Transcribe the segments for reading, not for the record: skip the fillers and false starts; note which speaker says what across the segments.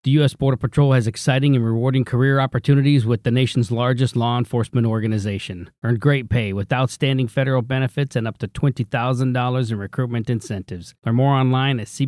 Speaker 1: The U.S. Border Patrol has exciting and rewarding career opportunities with the nation's largest law enforcement organization. Earn great pay with outstanding federal benefits and up to $20,000 in recruitment incentives. Learn more online at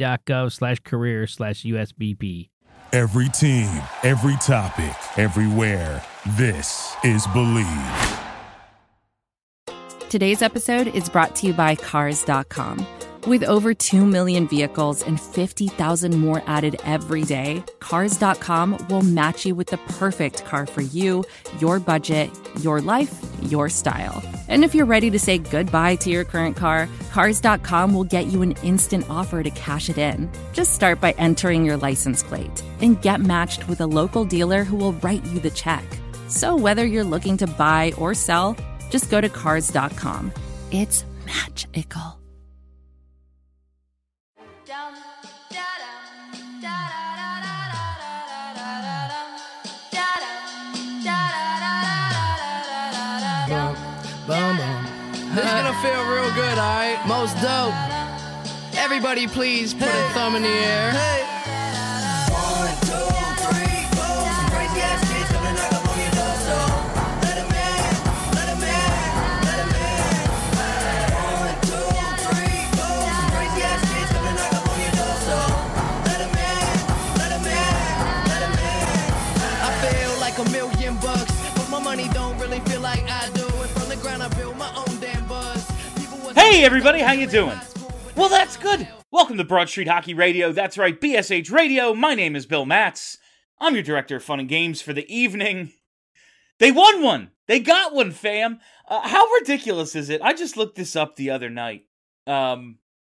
Speaker 1: cbp.gov/career/USBP.
Speaker 2: Every team, every topic, everywhere. This is Believe.
Speaker 3: Today's episode is brought to you by Cars.com. With over 2 million vehicles and 50,000 more added every day, Cars.com will match you with the perfect car for you, your budget, your life, your style. And if you're ready to say goodbye to your current car, Cars.com will get you an instant offer to cash it in. Just start by entering your license plate and get matched with a local dealer who will write you the check. So whether you're looking to buy or sell, just go to Cars.com. It's magical.
Speaker 4: This is gonna feel real good, alright? Most dope. Everybody please put a thumb in the air. Hey. 1, 2, 3, 4. Some crazy ass kids coming knock up on your door, so let 'em in, let 'em in, let 'em in. 1, 2, 3, 4. Some crazy ass kids coming knock up on your door, so let 'em in, let 'em in, let 'em in. I feel like $1 million, but my money don't really feel like I do. And from the ground I build my own damn buzz.
Speaker 5: Hey everybody, how you doing? Well, that's good. Welcome to Broad Street Hockey Radio. That's right, BSH Radio. My name is Bill Matz. I'm your director of fun and games for the evening. They won one. They got one, fam. How ridiculous is it? I just looked this up the other night. The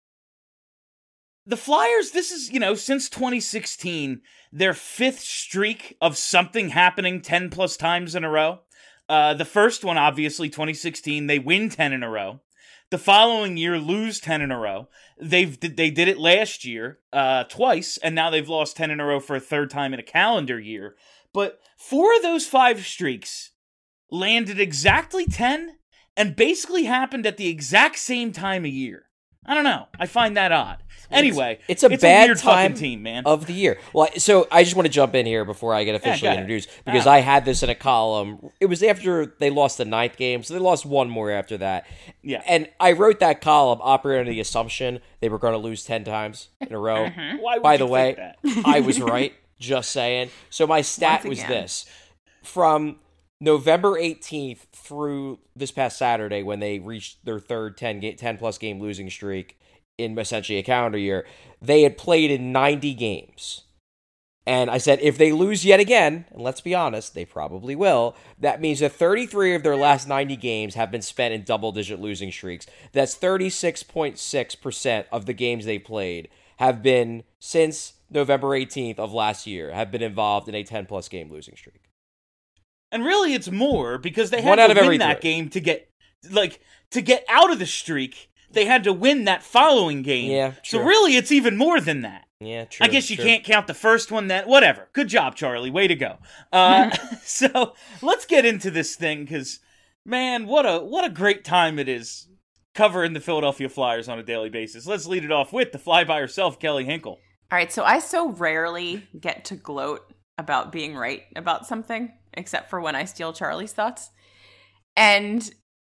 Speaker 5: Flyers, this is, since 2016, their 5th streak of something happening 10 plus times in a row. The first one, obviously, 2016, they win 10 in a row. The following year, lose 10 in a row. They did it last year, twice, and now they've lost 10 in a row for a third time in a calendar year. But 4 of those 5 streaks landed exactly 10 and basically happened at the exact same time of year. I don't know. I find that odd. Anyway,
Speaker 6: it's a bad
Speaker 5: weird
Speaker 6: time
Speaker 5: fucking team, man.
Speaker 6: Of the year. Well, so I just want to jump in here before I get officially introduced, because I had this in a column. It was after they lost the 9th game, so they lost one more after that.
Speaker 5: Yeah.
Speaker 6: And I wrote that column operating under the assumption they were going to lose 10 times in a row.
Speaker 5: Why would
Speaker 6: By
Speaker 5: you
Speaker 6: the way,
Speaker 5: think that?
Speaker 6: I was right, just saying. So my stat was this. From November 18th through this past Saturday, when they reached their third 10-plus game losing streak in essentially a calendar year, they had played in 90 games. And I said, if they lose yet again, and let's be honest, they probably will, that means that 33 of their last 90 games have been spent in double-digit losing streaks. That's 36.6% of the games they played have been, since November 18th of last year, have been involved in a 10-plus game losing streak.
Speaker 5: And really, it's more, because they had
Speaker 6: One out
Speaker 5: to
Speaker 6: of
Speaker 5: win that game to get out of the streak. They had to win that following game.
Speaker 6: Yeah, true.
Speaker 5: So really, it's even more than that.
Speaker 6: Yeah, true.
Speaker 5: I guess you can't count the first one. Whatever. Good job, Charlie. Way to go. So let's get into this thing, because, man, what a great time it is covering the Philadelphia Flyers on a daily basis. Let's lead it off with the fly by herself, Kelly Hinkle.
Speaker 7: All right, so I so rarely get to gloat about being right about something, except for when I steal Charlie's thoughts. And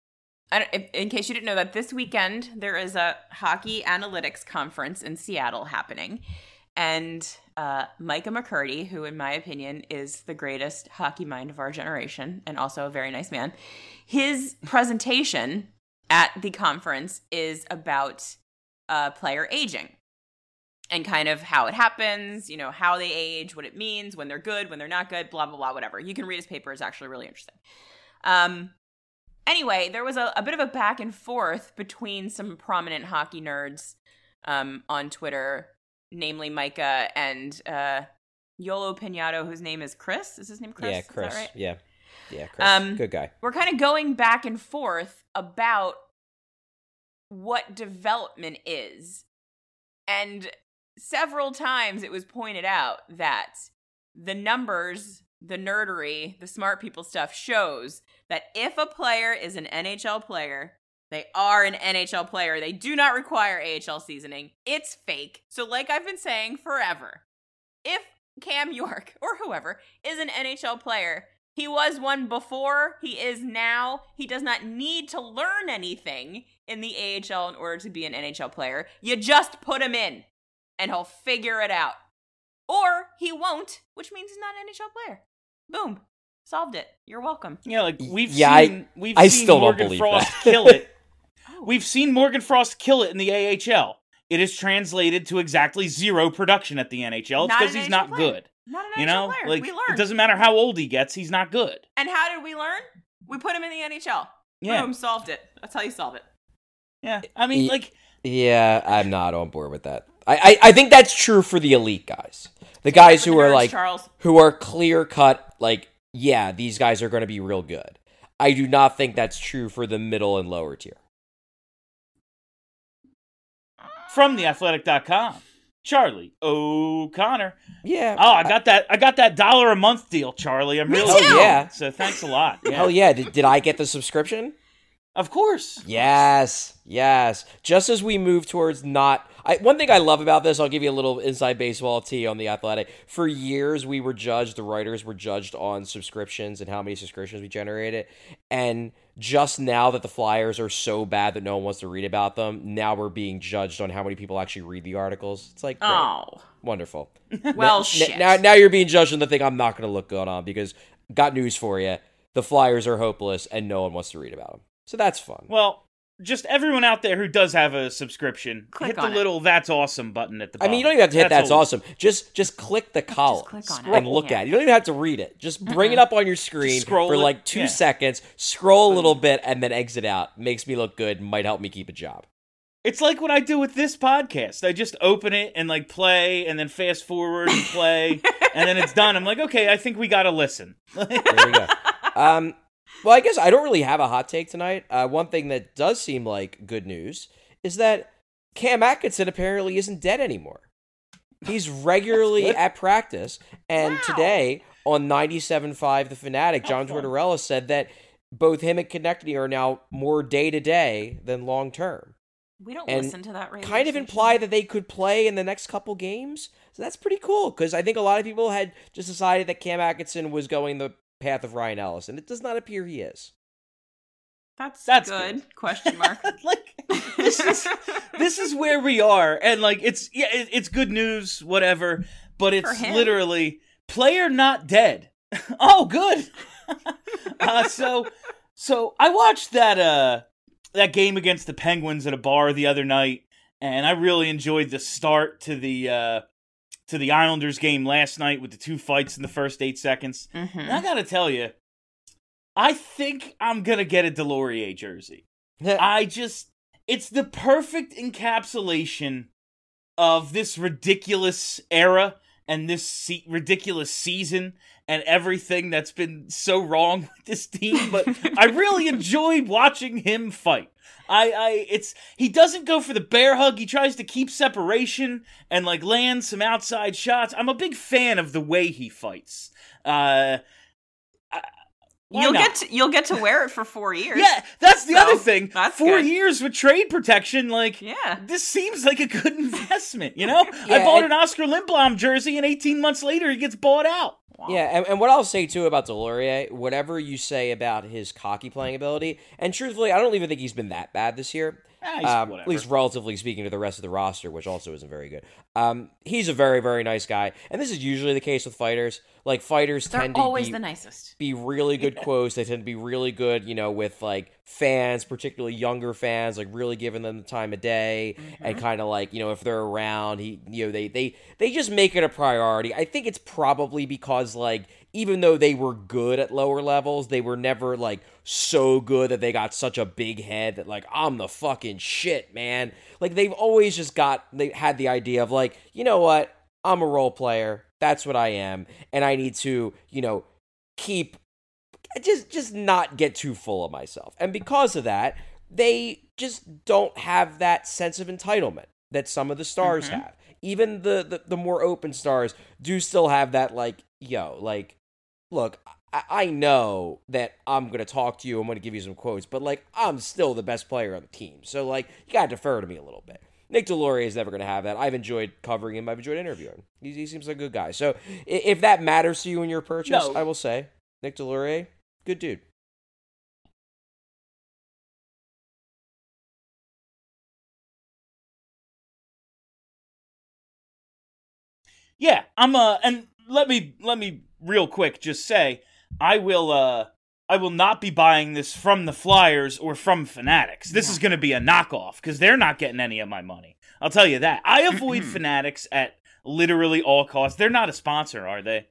Speaker 7: in case you didn't know that, this weekend there is a hockey analytics conference in Seattle happening. And Micah McCurdy, who in my opinion is the greatest hockey mind of our generation and also a very nice man, his presentation at the conference is about player aging and kind of how it happens, how they age, what it means, when they're good, when they're not good, blah, blah, blah, whatever. You can read his paper. It's actually really interesting. Anyway, there was a bit of a back and forth between some prominent hockey nerds on Twitter, namely Micah and Yolo Pinato, whose name is Chris. Is his name Chris?
Speaker 6: Yeah, Chris.
Speaker 7: Is that right?
Speaker 6: Yeah, Chris. Good guy.
Speaker 7: We're kind of going back and forth about what development is. And several times it was pointed out that the numbers, the nerdery, the smart people stuff shows that if a player is an NHL player, they are an NHL player. They do not require AHL seasoning. It's fake. So like I've been saying forever, if Cam York or whoever is an NHL player. He was one before, he is now. He does not need to learn anything in the AHL in order to be an NHL player. You just put him in and he'll figure it out. Or he won't, which means he's not an NHL player. Boom. Solved it. You're welcome.
Speaker 5: Yeah, like we've
Speaker 6: I
Speaker 5: seen
Speaker 6: still don't
Speaker 5: Morgan
Speaker 6: believe
Speaker 5: Frost
Speaker 6: that.
Speaker 5: kill it. We've seen Morgan Frost kill it in the AHL. It is translated to exactly zero production at the NHL. It's because he's not good.
Speaker 7: Not an NHL player.
Speaker 5: Like,
Speaker 7: we learned.
Speaker 5: it doesn't matter how old he gets, he's not good.
Speaker 7: And how did we learn? We put him in the NHL.
Speaker 5: Yeah.
Speaker 7: Boom, solved it. That's how you solve it.
Speaker 5: Yeah, I mean, like...
Speaker 6: Yeah, I'm not on board with that. I think that's true for the elite guys. The guys who are
Speaker 7: nerds,
Speaker 6: like,
Speaker 7: Charles.
Speaker 6: who are clear cut, like, yeah, these guys are going to be real good. I do not think that's true for the middle and lower tier.
Speaker 5: From theathletic.com, Charlie O'Connor.
Speaker 6: Yeah.
Speaker 5: Oh, I got that $1 a month deal, Charlie. I'm really
Speaker 6: too. Yeah.
Speaker 5: So thanks a lot. Yeah.
Speaker 6: Hell yeah. Did I get the subscription?
Speaker 5: Of course.
Speaker 6: Yes. Just as we move towards one thing I love about this, I'll give you a little inside baseball tea on The Athletic. For years, the writers were judged on subscriptions and how many subscriptions we generated. And just now that the Flyers are so bad that no one wants to read about them, now we're being judged on how many people actually read the articles. It's like, great.
Speaker 7: Oh.
Speaker 6: Wonderful.
Speaker 7: Well, shit.
Speaker 6: Now you're being judged on the thing I'm not going to look good on because, got news for you, the Flyers are hopeless and no one wants to read about them. So that's fun.
Speaker 5: Well, just everyone out there who does have a subscription, hit the little "That's awesome" button at the bottom.
Speaker 6: I mean, you don't even have to hit "That's awesome." Just click the column and look at it. You don't even have to read it. Just bring it up on your screen for like 2 seconds, scroll a little bit, and then exit out. Makes me look good. Might help me keep a job.
Speaker 5: It's like what I do with this podcast. I just open it and like play, and then fast forward and play, and then it's done. I'm like, okay, I think we got to listen.
Speaker 6: There we go. Well, I guess I don't really have a hot take tonight. One thing that does seem like good news is that Cam Atkinson apparently isn't dead anymore. He's regularly at practice, and today on 97.5 The Fanatic, John Tortorella said that both him and Konechny are now more day-to-day than long-term.
Speaker 7: We don't listen to that radio
Speaker 6: kind of
Speaker 7: station.
Speaker 6: imply that they could play in the next couple games. So that's pretty cool, because I think a lot of people had just decided that Cam Atkinson was going the path of Ryan Ellis, and it does not appear he is.
Speaker 7: That's good. Question mark.
Speaker 5: Like this is where we are, and like it's good news, whatever. But it's literally player not dead. Oh, good. So I watched that game against the Penguins at a bar the other night, and I really enjoyed the start to the Islanders game last night with the 2 fights in the first 8 seconds. Mm-hmm. And I gotta tell you, I think I'm gonna get a Delorier jersey. It's the perfect encapsulation of this ridiculous era and this ridiculous season and everything that's been so wrong with this team. But I really enjoyed watching him fight. He doesn't go for the bear hug. He tries to keep separation and like land some outside shots. I'm a big fan of the way he fights.
Speaker 7: You'll get to wear it for 4 years.
Speaker 5: Yeah, that's the other thing.
Speaker 7: That's
Speaker 5: 4 years with trade protection. Like, this seems like a good investment. You know, I bought an Oscar Lindblom jersey, and 18 months later, he gets bought out.
Speaker 6: Wow. Yeah, and what I'll say, too, about Delorier, whatever you say about his cocky playing ability, and truthfully, I don't even think he's been that bad this year. At least relatively speaking to the rest of the roster, which also isn't very good. He's a very, very nice guy. And this is usually the case with fighters. Like, fighters tend to
Speaker 7: always the nicest.
Speaker 6: Be really good quotes. They tend to be really good, you know, with, like, fans, particularly younger fans, like, really giving them the time of day. Mm-hmm. And kind of like, you know, if they're around, they just make it a priority. I think it's probably because, like, even though they were good at lower levels, they were never, like, so good that they got such a big head that, like, I'm the fucking shit, man. Like, they've always just they had the idea of, like, you know what? I'm a role player. That's what I am. And I need to, you know, keep, just not get too full of myself. And because of that, they just don't have that sense of entitlement that some of the stars have. Even the more open stars do still have that, like, yo, like, look, I know that I'm going to talk to you, I'm going to give you some quotes, but, like, I'm still the best player on the team. So, like, you got to defer to me a little bit. Nick Deslauriers is never going to have that. I've enjoyed covering him. I've enjoyed interviewing him. He seems like a good guy. So if that matters to you in your purchase, I will say Nick Deslauriers, good dude.
Speaker 5: Yeah, and let me real quick just say I will not be buying this from the Flyers or from Fanatics. This is going to be a knockoff because they're not getting any of my money. I'll tell you that. I avoid Fanatics at literally all costs. They're not a sponsor, are they?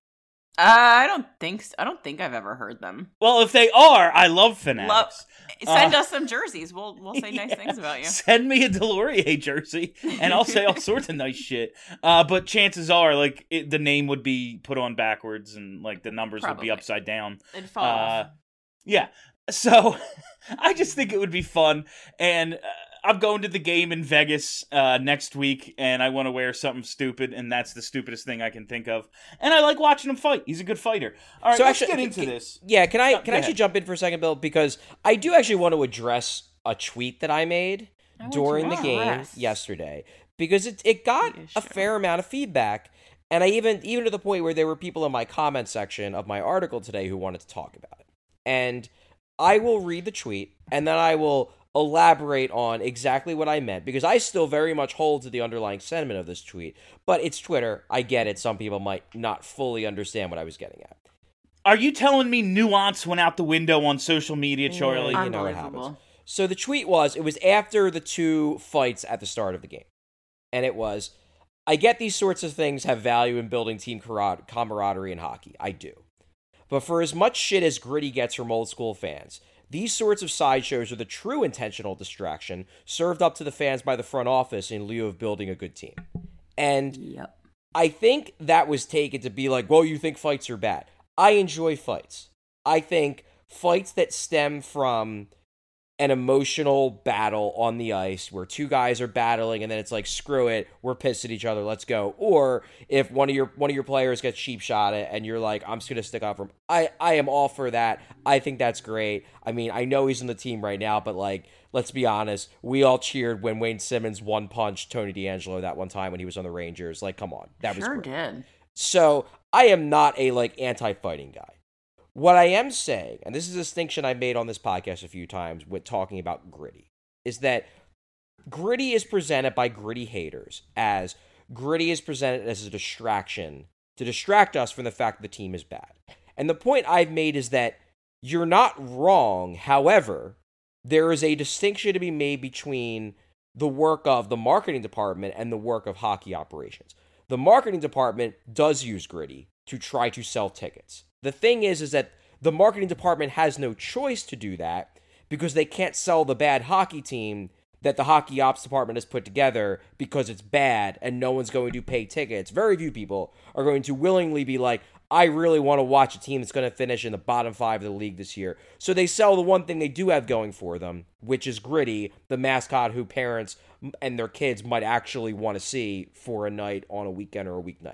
Speaker 7: I don't think so. I don't think I've ever heard them.
Speaker 5: Well, if they are, I love Fanatics.
Speaker 7: Send us some jerseys. We'll say nice things about you.
Speaker 5: Send me a Deslauriers jersey, and I'll say all sorts of nice shit. But chances are, like, the name would be put on backwards, and like the numbers would be upside down.
Speaker 7: It'd fall off.
Speaker 5: Yeah. So I just think it would be fun, and I'm going to the game in Vegas next week, and I want to wear something stupid, and that's the stupidest thing I can think of. And I like watching him fight. He's a good fighter. All right, so let's get into this.
Speaker 6: Yeah, can I actually jump in for a second, Bill? Because I do actually want to address a tweet that I made during the game yesterday, because it got a fair amount of feedback, and I even to the point where there were people in my comment section of my article today who wanted to talk about it. And I will read the tweet, and then I will elaborate on exactly what I meant, because I still very much hold to the underlying sentiment of this tweet, but it's Twitter. I get it. Some people might not fully understand what I was getting at.
Speaker 5: Are you telling me nuance went out the window on social media, Charlie?
Speaker 6: You know what happens. So the tweet was after the two fights at the start of the game, and it was, I get these sorts of things have value in building team camaraderie in hockey. I do. But for as much shit as Gritty gets from old school fans, these sorts of sideshows are the true intentional distraction served up to the fans by the front office in lieu of building a good team. And I think that was taken to be like, well, you think fights are bad. I enjoy fights. I think fights that stem from an emotional battle on the ice where two guys are battling and then it's like, screw it, we're pissed at each other, let's go. Or if one of your players gets cheap shot at and you're like, I'm just going to stick up for him. I am all for that. I think that's great. I mean, I know he's on the team right now, but like, let's be honest, we all cheered when Wayne Simmons one-punched Tony DeAngelo that one time when he was on the Rangers. Like, come on. That was great.
Speaker 7: Did.
Speaker 6: So I am not a like anti-fighting guy. What I am saying, and this is a distinction I made on this podcast a few times with talking about Gritty, is that Gritty is presented by Gritty haters as Gritty is presented as a distraction to distract us from the fact that the team is bad. And the point I've made is that you're not wrong. However, there is a distinction to be made between the work of the marketing department and the work of hockey operations. The marketing department does use Gritty to try to sell tickets. The thing is that the marketing department has no choice to do that because they can't sell the bad hockey team that the hockey ops department has put together because it's bad and no one's going to pay tickets. Very few people are going to willingly be like, I really want to watch a team that's going to finish in the bottom 5 of the league this year. So they sell the one thing they do have going for them, which is Gritty, the mascot who parents and their kids might actually want to see for a night on a weekend or a weeknight.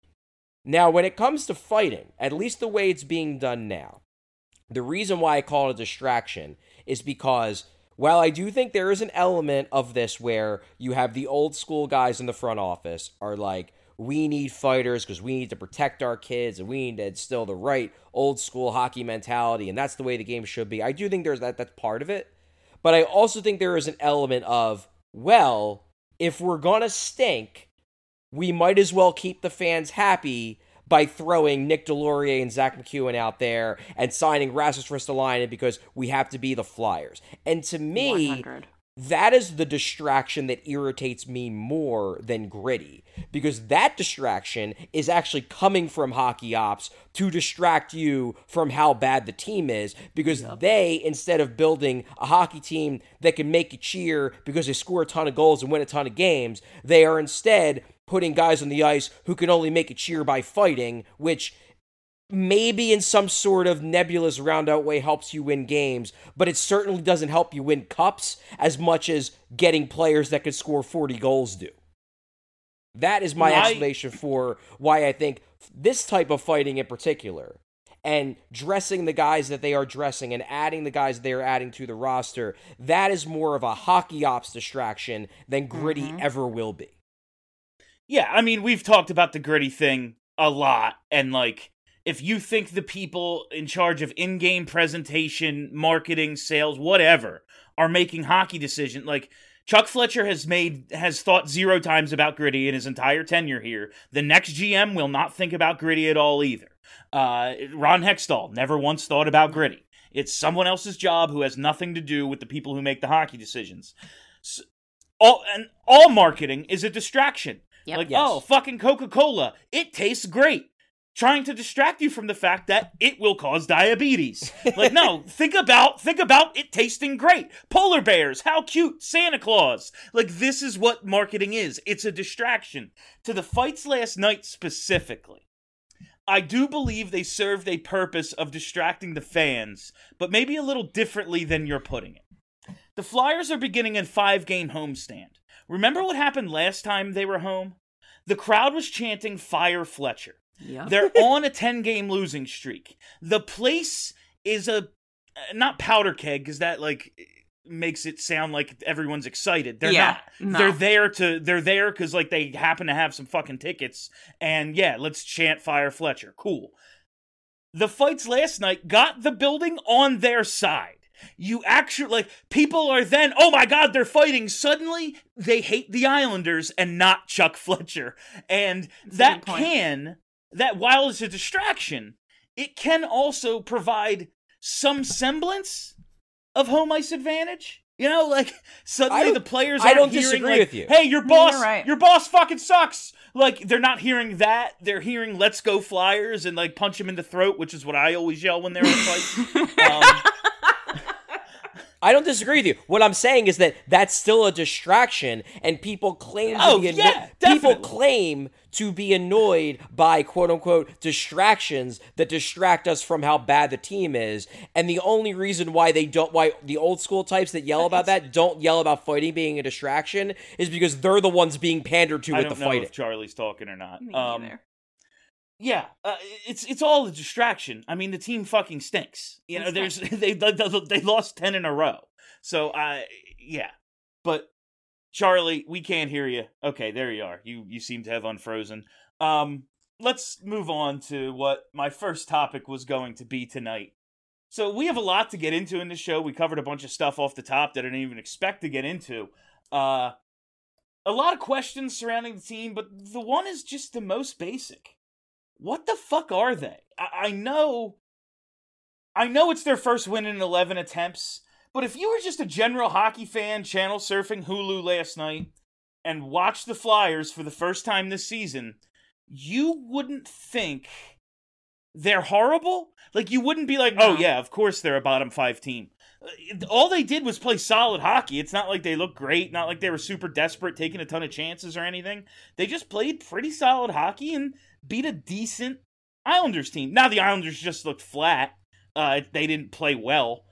Speaker 6: Now, when it comes to fighting, at least the way it's being done now, the reason why I call it a distraction is because, while I do think there is an element of this where you have the old school guys in the front office are like, we need fighters because we need to protect our kids and we need to instill the right old school hockey mentality, and that's the way the game should be. I do think there's that's part of it. But I also think there is an element of, well, if we're going to stink, we might as well keep the fans happy by throwing Nick Deslauriers and Zach McEwen out there and signing Rasmus Ristolainen because we have to be the Flyers. And to me,
Speaker 7: 100.
Speaker 6: That is the distraction that irritates me more than Gritty, because that distraction is actually coming from hockey ops to distract you from how bad the team is, because they, instead of building a hockey team that can make you cheer because they score a ton of goals and win a ton of games, they are instead putting guys on the ice who can only make you cheer by fighting, which maybe in some sort of nebulous roundabout way helps you win games, but it certainly doesn't help you win cups as much as getting players that could score 40 goals do. That is my explanation for why I think this type of fighting in particular, and dressing the guys that they are dressing and adding the guys they are adding to the roster, that is more of a hockey ops distraction than Gritty ever will be.
Speaker 5: Yeah, I mean, we've talked about the Gritty thing a lot, and like, if you think the people in charge of in-game presentation, marketing, sales, whatever, are making hockey decisions, like, Chuck Fletcher has thought 0 times about Gritty in his entire tenure here. The next GM will not think about Gritty at all either. Ron Hextall never once thought about Gritty. It's someone else's job who has nothing to do with the people who make the hockey decisions. So, all marketing is a distraction.
Speaker 7: Yep.
Speaker 5: Like,
Speaker 6: Yes.
Speaker 5: oh, fucking Coca-Cola, it tastes great. Trying to distract you from the fact that it will cause diabetes. Like, no, think about it tasting great. Polar bears, how cute. Santa Claus. Like, this is what marketing is. It's a distraction. To the fights last night specifically, I do believe they served a purpose of distracting the fans, but maybe a little differently than you're putting it. The Flyers are beginning a 5-game homestand. Remember what happened last time they were home? The crowd was chanting "Fire Fletcher."
Speaker 7: Yeah.
Speaker 5: They're on a 10-game losing streak. The place is not powder keg, because that like makes it sound like everyone's excited. They're not.
Speaker 7: No.
Speaker 5: They're there because like they happen to have some fucking tickets, and yeah, let's chant "Fire Fletcher." Cool. The fights last night got the building on their side. You actually, like, people are then, oh my God, they're fighting. Suddenly, they hate the Islanders and not Chuck Fletcher. And that while it's a distraction, it can also provide some semblance of home ice advantage. You know, like, suddenly the players aren't hearing,
Speaker 6: disagree
Speaker 5: like,
Speaker 6: with you.
Speaker 5: hey, your
Speaker 7: right.
Speaker 5: boss fucking sucks. Like, they're not hearing that. They're hearing "Let's go Flyers" and, like, punch him in the throat, which is what I always yell when they're in fights.
Speaker 6: I don't disagree with you. What I'm saying is that that's still a distraction, and people claim to be annoyed by "quote unquote" distractions that distract us from how bad the team is. And the only reason why the old school types that yell about that don't yell about fighting being a distraction is because they're the ones being pandered to with the fighting.
Speaker 5: I don't know if Charlie's talking or not.
Speaker 7: Me neither.
Speaker 5: Yeah, it's all a distraction. I mean, the team fucking stinks. You know, they lost 10 in a row. So yeah. But Charlie, we can't hear you. Okay, there you are. You seem to have unfrozen. Let's move on to what my first topic was going to be tonight. So we have a lot to get into in this show. We covered a bunch of stuff off the top that I didn't even expect to get into. A lot of questions surrounding the team, but the one is just the most basic. What the fuck are they? I know it's their first win in 11 attempts, but if you were just a general hockey fan channel surfing Hulu last night and watched the Flyers for the first time this season, you wouldn't think they're horrible. Like, you wouldn't be like, oh yeah, of course they're a bottom 5 team. All they did was play solid hockey. It's not like they looked great, not like they were super desperate, taking a ton of chances or anything. They just played pretty solid hockey and beat a decent Islanders team. Now, the Islanders just looked flat. They didn't play well.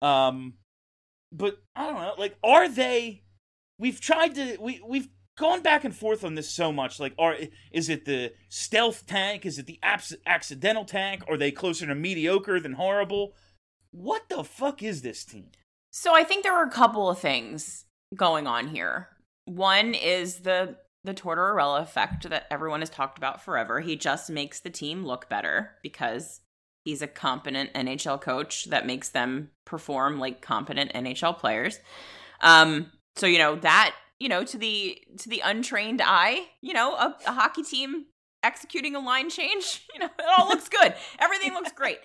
Speaker 5: But I don't know. Like, are they? We've gone back and forth on this so much. Like, is it the stealth tank? Is it the accidental tank? Are they closer to mediocre than horrible? What the fuck is this team?
Speaker 7: So I think there are a couple of things going on here. One is the Tortorella effect that everyone has talked about forever. He just makes the team look better because he's a competent NHL coach that makes them perform like competent NHL players. So, you know, that, you know, to the untrained eye, you know, a hockey team executing a line change, you know, it all looks good. Everything looks great.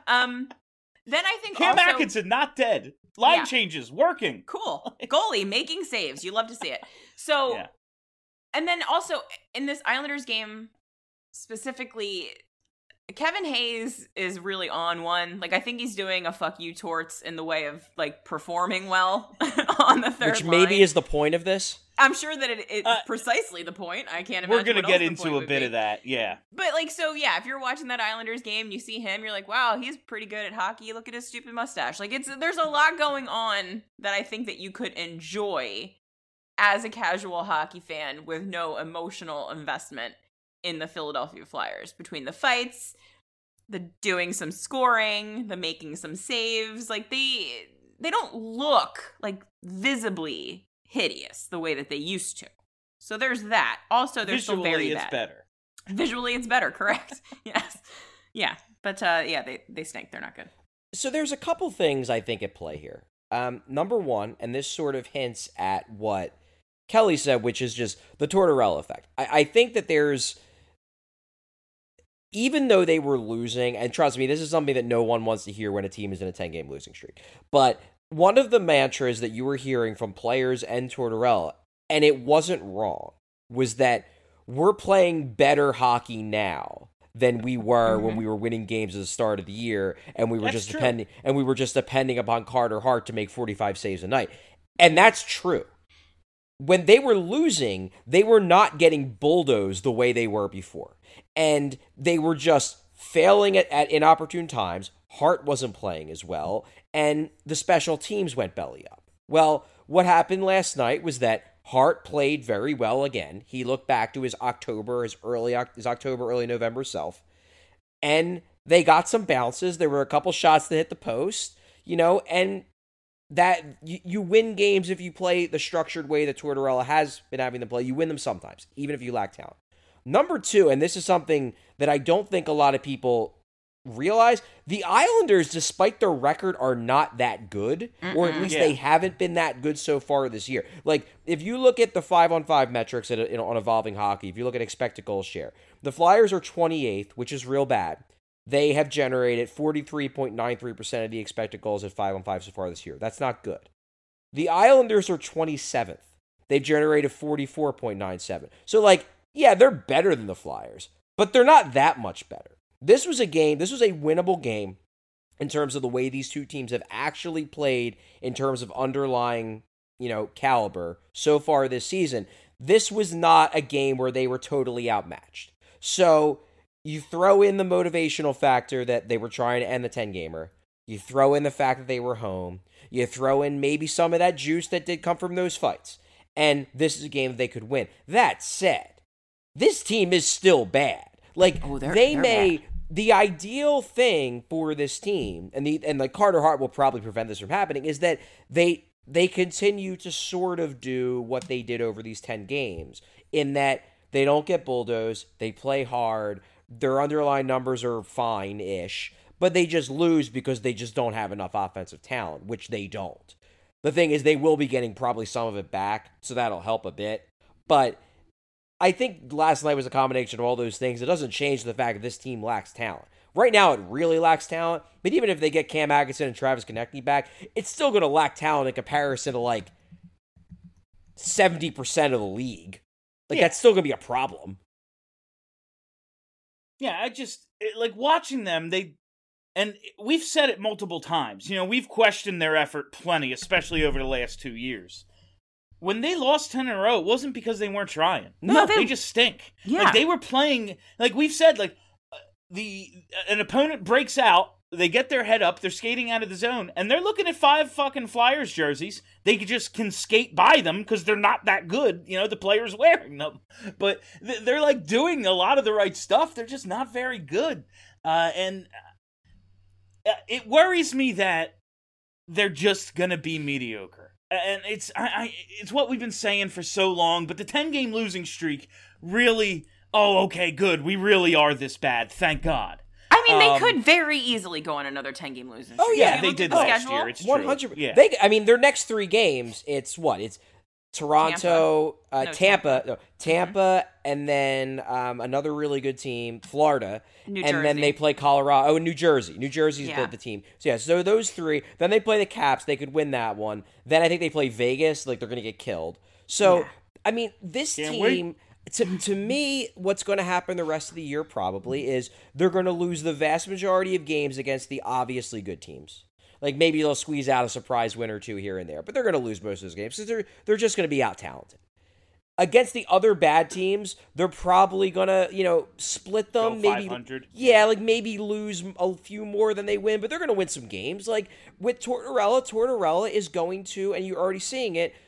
Speaker 7: Then I think
Speaker 5: Cam Atkinson not dead. Line changes working.
Speaker 7: Cool. Goalie making saves. You love to see it. So, and then also in this Islanders game specifically, Kevin Hayes is really on one. Like, I think he's doing a fuck you Torts in the way of, like, performing well on the third
Speaker 6: Which
Speaker 7: line.
Speaker 6: maybe is the point of this.
Speaker 7: I'm sure that it's precisely the point. I can't imagine.
Speaker 5: We're going to get into a bit of that, yeah.
Speaker 7: But, like, so, yeah, if you're watching that Islanders game, you see him, you're like, wow, he's pretty good at hockey. Look at his stupid mustache. Like, there's a lot going on that I think that you could enjoy as a casual hockey fan with no emotional investment in the Philadelphia Flyers. Between the fights, the doing some scoring, the making some saves. Like they don't look like visibly hideous the way that they used to. So there's that. Also, they're still very bad.
Speaker 5: Better.
Speaker 7: Visually, it's better. Correct. Yes. Yeah. But they stink. They're not good.
Speaker 6: So there's a couple things I think at play here. Number one, and this sort of hints at what Kelly said, which is just the Tortorella effect. I think that there's, even though they were losing, and trust me, this is something that no one wants to hear when a team is in a 10-game losing streak, but one of the mantras that you were hearing from players and Tortorella, and it wasn't wrong, was that we're playing better hockey now than we were when we were winning games at the start of the year, and we were just depending upon Carter Hart to make 45 saves a night. And that's true. When they were losing, they were not getting bulldozed the way they were before. And they were just failing at inopportune times. Hart wasn't playing as well, and the special teams went belly up. Well, what happened last night was that Hart played very well again. He looked back to his October, early November self, and they got some bounces. There were a couple shots that hit the post, and that you win games if you play the structured way that Tortorella has been having them play. You win them sometimes, even if you lack talent. Number two, and this is something that I don't think a lot of people realize, the Islanders, despite their record, are not that good, or at least they haven't been that good so far this year. Like, if you look at the 5-on-5 metrics on Evolving Hockey, if you look at expected goals share, the Flyers are 28th, which is real bad. They have generated 43.93% of the expected goals at 5-on-5 so far this year. That's not good. The Islanders are 27th. They've generated 44.97. So, yeah, they're better than the Flyers, but they're not that much better. This was a winnable game in terms of the way these two teams have actually played in terms of underlying, caliber so far this season. This was not a game where they were totally outmatched. So you throw in the motivational factor that they were trying to end the 10-gamer. You throw in the fact that they were home. You throw in maybe some of that juice that did come from those fights. And this is a game that they could win. That said, this team is still bad. The ideal thing for this team, and Carter Hart will probably prevent this from happening, is that they continue to sort of do what they did over these 10 games, in that they don't get bulldozed, they play hard, their underlying numbers are fine-ish, but they just lose because they just don't have enough offensive talent, which they don't. The thing is, they will be getting probably some of it back, so that'll help a bit, but I think last night was a combination of all those things. It doesn't change the fact that this team lacks talent. Right now, it really lacks talent, but even if they get Cam Atkinson and Travis Konecny back, it's still going to lack talent in comparison to, 70% of the league. That's still going to be a problem.
Speaker 5: Yeah, watching them, and we've said it multiple times. We've questioned their effort plenty, especially over the last 2 years. When they lost 10 in a row, it wasn't because they weren't trying. No, they just stink.
Speaker 7: Yeah.
Speaker 5: They were playing, we've said, an opponent breaks out, they get their head up, they're skating out of the zone, and they're looking at 5 fucking Flyers jerseys. They just can skate by them because they're not that good, the players wearing them. But they're, doing a lot of the right stuff. They're just not very good. And it worries me that they're just going to be mediocre. And it's what we've been saying for so long, but the 10-game losing streak really, okay, good. We really are this bad. Thank God.
Speaker 7: I mean, they could very easily go on another 10-game losing streak.
Speaker 6: Oh, yeah.
Speaker 5: They did last year. It's
Speaker 6: 100%.
Speaker 5: Yeah.
Speaker 6: Their next 3 games, it's what? It's Toronto, Tampa, and then another really good team, Florida,
Speaker 7: New Jersey.
Speaker 6: And then they play Colorado. Oh, and New Jersey. New Jersey's the team. So those 3. Then they play the Caps. They could win that one. Then I think they play Vegas. They're going to get killed. So, this team, to me, what's going to happen the rest of the year probably is they're going to lose the vast majority of games against the obviously good teams. Maybe they'll squeeze out a surprise win or 2 here and there, but they're going to lose most of those games because they're just going to be out-talented. Against the other bad teams, they're probably going to, split them.
Speaker 5: Go 500.
Speaker 6: Maybe lose a few more than they win, but they're going to win some games. With Tortorella is going to, and you're already seeing it,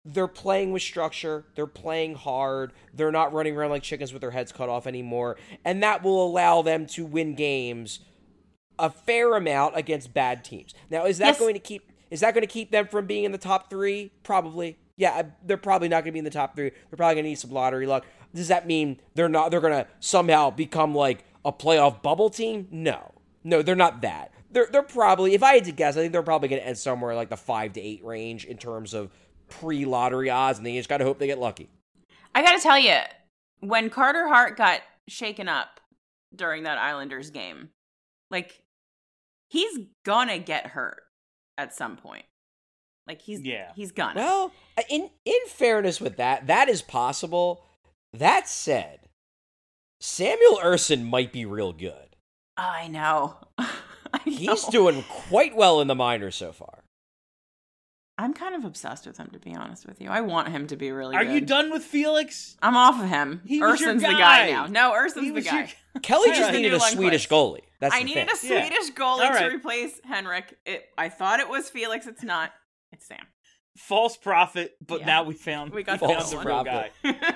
Speaker 6: they're playing with structure, they're playing hard, they're not running around like chickens with their heads cut off anymore, and that will allow them to win games a fair amount against bad teams. Now, is that going to keep them from being in the top 3? Probably. Yeah, they're probably not going to be in the top 3. They're probably going to need some lottery luck. Does that mean they're going to somehow become like a playoff bubble team? No, they're not that. They're probably, if I had to guess, I think they're probably going to end somewhere like the 5 to 8 range in terms of pre-lottery odds, and they just got to hope they get lucky.
Speaker 7: I got to tell you, when Carter Hart got shaken up during that Islanders game, like, he's gonna get hurt at some point. Like, he's gonna.
Speaker 6: Well, in fairness with that is possible. That said, Samuel Ersson might be real good.
Speaker 7: I know.
Speaker 6: He's doing quite well in the minors so far.
Speaker 7: I'm kind of obsessed with him, to be honest with you. I want him to be really good.
Speaker 5: Are you done with Felix?
Speaker 7: I'm off of him. Erson's the guy now. No, Erson's the guy.
Speaker 6: Kelly just needed a Swedish goalie.
Speaker 7: I needed a Swedish goalie to replace Henrik. I thought it was Felix. It's not. It's Sam.
Speaker 5: False prophet, but now we found the real guy.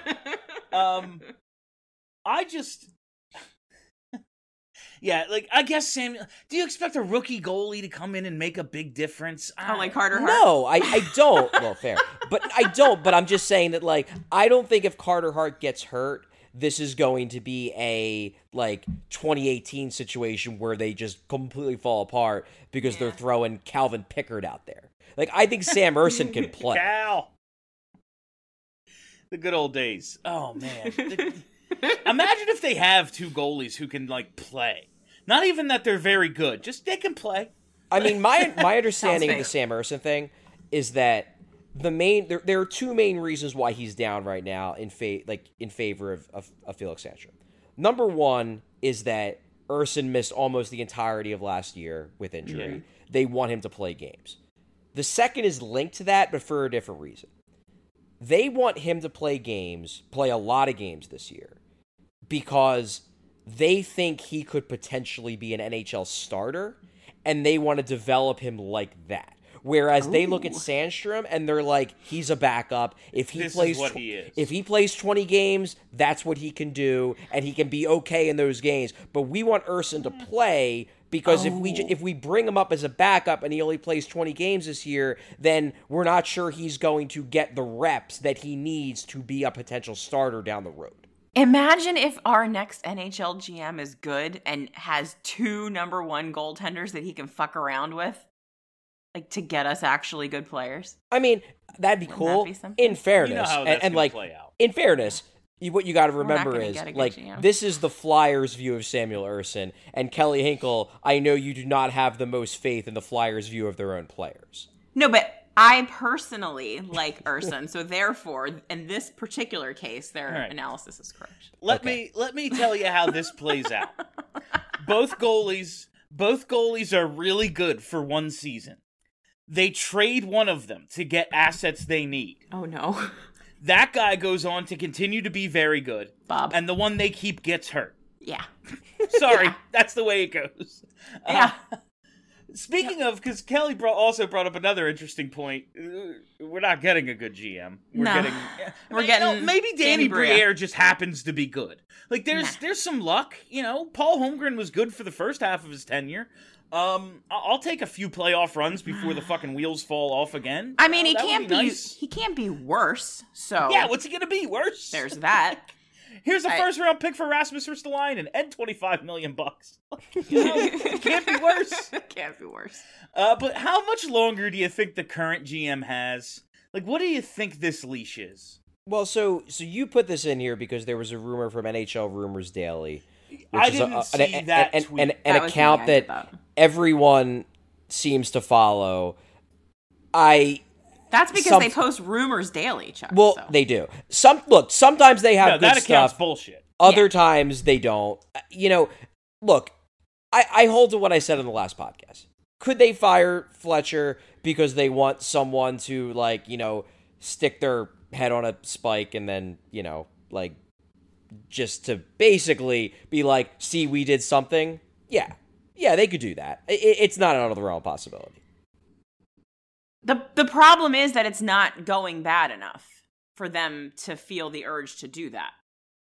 Speaker 5: I just... Yeah, like, I guess Samuel... Do you expect a rookie goalie to come in and make a big difference?
Speaker 7: Oh, like Carter Hart?
Speaker 6: No, I don't. Well, fair. But I don't. But I'm just saying that, like, I don't think if Carter Hart gets hurt, this is going to be a, like, 2018 situation where they just completely fall apart because they're throwing Calvin Pickard out there. Like, I think Sam Ersson can play.
Speaker 5: Cal! The good old days. Oh, man. Imagine if they have 2 goalies who can, like, play. Not even that they're very good. Just they can play.
Speaker 6: I mean, my understanding of the Sam Ersson thing is that there are 2 main reasons why he's down right now in favor of Felix Sandstrom. Number 1 is that Ersson missed almost the entirety of last year with injury. Yeah. They want him to play games. The second is linked to that, but for a different reason. They want him to play a lot of games this year, because they think he could potentially be an NHL starter, and they want to develop him like that. Whereas they look at Sandstrom and they're like, he's a backup. If he plays 20 games, that's what he can do, and he can be okay in those games. But we want Ersson to play, because if we bring him up as a backup and he only plays 20 games this year, then we're not sure he's going to get the reps that he needs to be a potential starter down the road.
Speaker 7: Imagine if our next NHL GM is good and has 2 number 1 goaltenders that he can fuck around with, like, to get us actually good players.
Speaker 6: I mean, that'd be cool. In fairness,
Speaker 5: you know how that's gonna play out.
Speaker 6: In fairness, what you got to remember is, like, this is the Flyers' view of Samuel Ersson, and Kelly Hinkle, I know you do not have the most faith in the Flyers' view of their own players.
Speaker 7: No, but I personally like Ersson, so therefore, in this particular case, their analysis is correct.
Speaker 5: Let me tell you how this plays out. Both goalies are really good for one season. They trade one of them to get assets they need.
Speaker 7: Oh no.
Speaker 5: That guy goes on to continue to be very good.
Speaker 7: Bob.
Speaker 5: And the one they keep gets hurt.
Speaker 7: Yeah.
Speaker 5: Sorry, that's the way it goes.
Speaker 7: Yeah.
Speaker 5: Speaking of, because Kelly also brought up another interesting point. We're not getting a good GM. We're getting maybe Danny Briere just happens to be good. Like, there's some luck. You know, Paul Holmgren was good for the first half of his tenure. I'll take a few playoff runs before the fucking wheels fall off again.
Speaker 7: I mean, he can't be worse. So
Speaker 5: yeah, what's he gonna be worse?
Speaker 7: There's that.
Speaker 5: Here's a first round pick for Rasmus Ristolainen and $25 million. You know, it can't be worse.
Speaker 7: Can't be worse.
Speaker 5: But how much longer do you think the current GM has? Like, what do you think this leash is?
Speaker 6: Well, so you put this in here because there was a rumor from NHL Rumors Daily.
Speaker 5: I didn't see that tweet.
Speaker 6: An account that everyone seems to follow.
Speaker 7: That's because they post rumors daily, Chuck.
Speaker 6: Well, so. They do. Sometimes they have good
Speaker 5: that account's
Speaker 6: stuff.
Speaker 5: Bullshit.
Speaker 6: Other times they don't. You know, look, I hold to what I said in the last podcast. Could they fire Fletcher because they want someone to, like, you know, stick their head on a spike and then, you know, like, just to basically be like, see, we did something? Yeah, they could do that. It's not out of the realm of possibility.
Speaker 7: The problem is that it's not going bad enough for them to feel the urge to do that.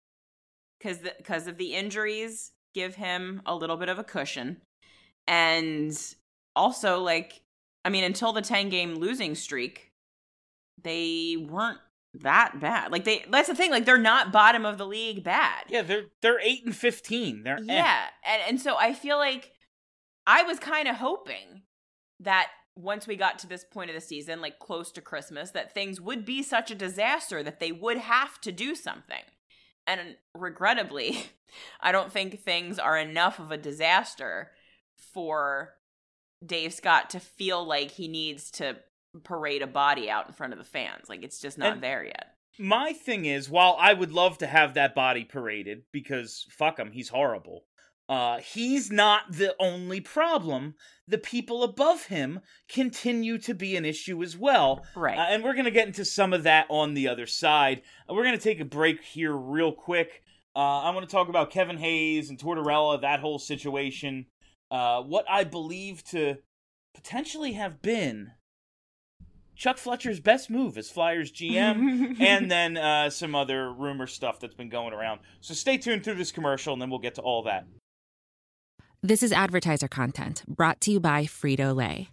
Speaker 7: Because of the injuries, give him a little bit of a cushion. And also, like, I mean, until the 10-game losing streak, they weren't that bad. Like, that's the thing. Like, they're not bottom of the league bad.
Speaker 5: Yeah, they're 8-15. They're
Speaker 7: yeah, and so I feel like I was kind of hoping that once we got to this point of the season, like close to Christmas, that things would be such a disaster that they would have to do something. And regrettably, I don't think things are enough of a disaster for Dave Scott to feel like he needs to parade a body out in front of the fans. Like, it's just not there yet.
Speaker 5: My thing is, while I would love to have that body paraded, because fuck him, he's horrible, he's not the only problem. The people above him continue to be an issue as well.
Speaker 7: Right.
Speaker 5: And we're going to get into some of that on the other side. We're going to take a break here real quick. I want to talk about Kevin Hayes and Tortorella, that whole situation. What I believe to potentially have been Chuck Fletcher's best move as Flyers GM, and then some other rumor stuff that's been going around. So stay tuned through this commercial, and then we'll get to all that.
Speaker 3: This is advertiser content brought to you by Frito-Lay.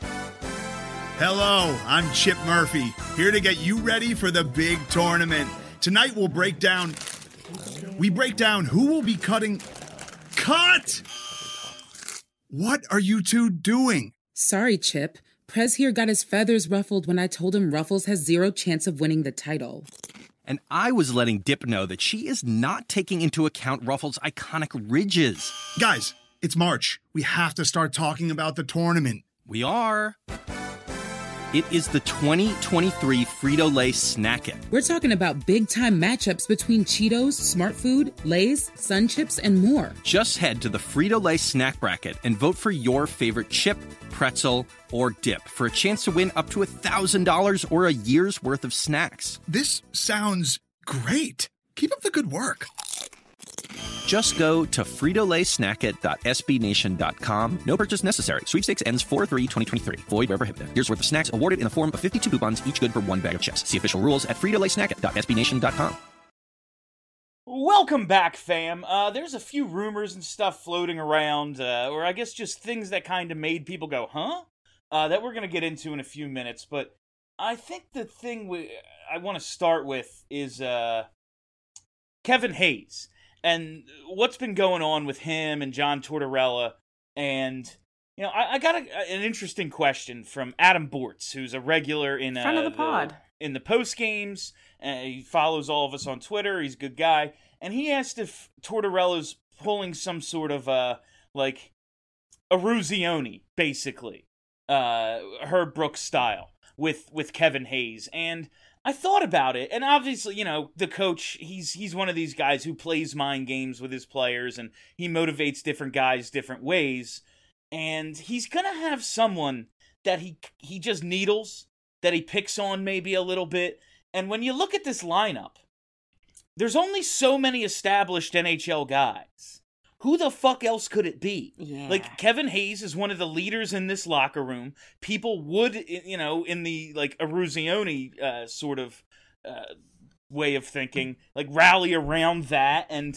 Speaker 8: Hello, I'm Chip Murphy, here to get you ready for the big tournament. Tonight we'll break down who will be cutting... Cut! What are you two doing?
Speaker 9: Sorry, Chip. Prez here got his feathers ruffled when I told him Ruffles has zero chance of winning the title.
Speaker 10: And I was letting Dip know that she is not taking into account Ruffles' iconic ridges.
Speaker 8: Guys, it's March. We have to start talking about the tournament.
Speaker 10: We are. It is the 2023 Frito-Lay Snack It.
Speaker 9: We're talking about big-time matchups between Cheetos, Smart Food, Lay's, Sun Chips, and more.
Speaker 10: Just head to the Frito-Lay Snack Bracket and vote for your favorite chip, pretzel, or dip for a chance to win up to $1,000 or a year's worth of snacks.
Speaker 8: This sounds great. Keep up the good work.
Speaker 10: Just go to fritolaysnackit.sbnation.com. No purchase necessary. Sweepstakes ends 4/3/2023. Void where prohibited. Year's worth of snacks awarded in the form of 52 coupons, each good for one bag of chips. See official rules at fritolaysnackit.sbnation.com.
Speaker 5: Welcome back, fam. There's a few rumors and stuff floating around, or I guess just things that kind of made people go, huh? That we're going to get into in a few minutes, but I think the thing I want to start with is Kevin Hayes. And what's been going on with him and John Tortorella. And, you know, I got an interesting question from Adam Bortz, who's a regular in
Speaker 7: Friend of the pod.
Speaker 5: In the post games. He follows all of us on Twitter. He's a good guy. And he asked if Tortorella's pulling some sort of, like, Eruzione, basically. Herb Brooks style with Kevin Hayes. And I thought about it, and obviously, you know, the coach, he's one of these guys who plays mind games with his players, and he motivates different guys different ways, and he's going to have someone that he just needles, that he picks on maybe a little bit, and when you look at this lineup, there's only so many established NHL guys. Who the fuck else could it be?
Speaker 7: Yeah.
Speaker 5: Like, Kevin Hayes is one of the leaders in this locker room. People would, you know, in the, like, Eruzione sort of way of thinking, like, rally around that. And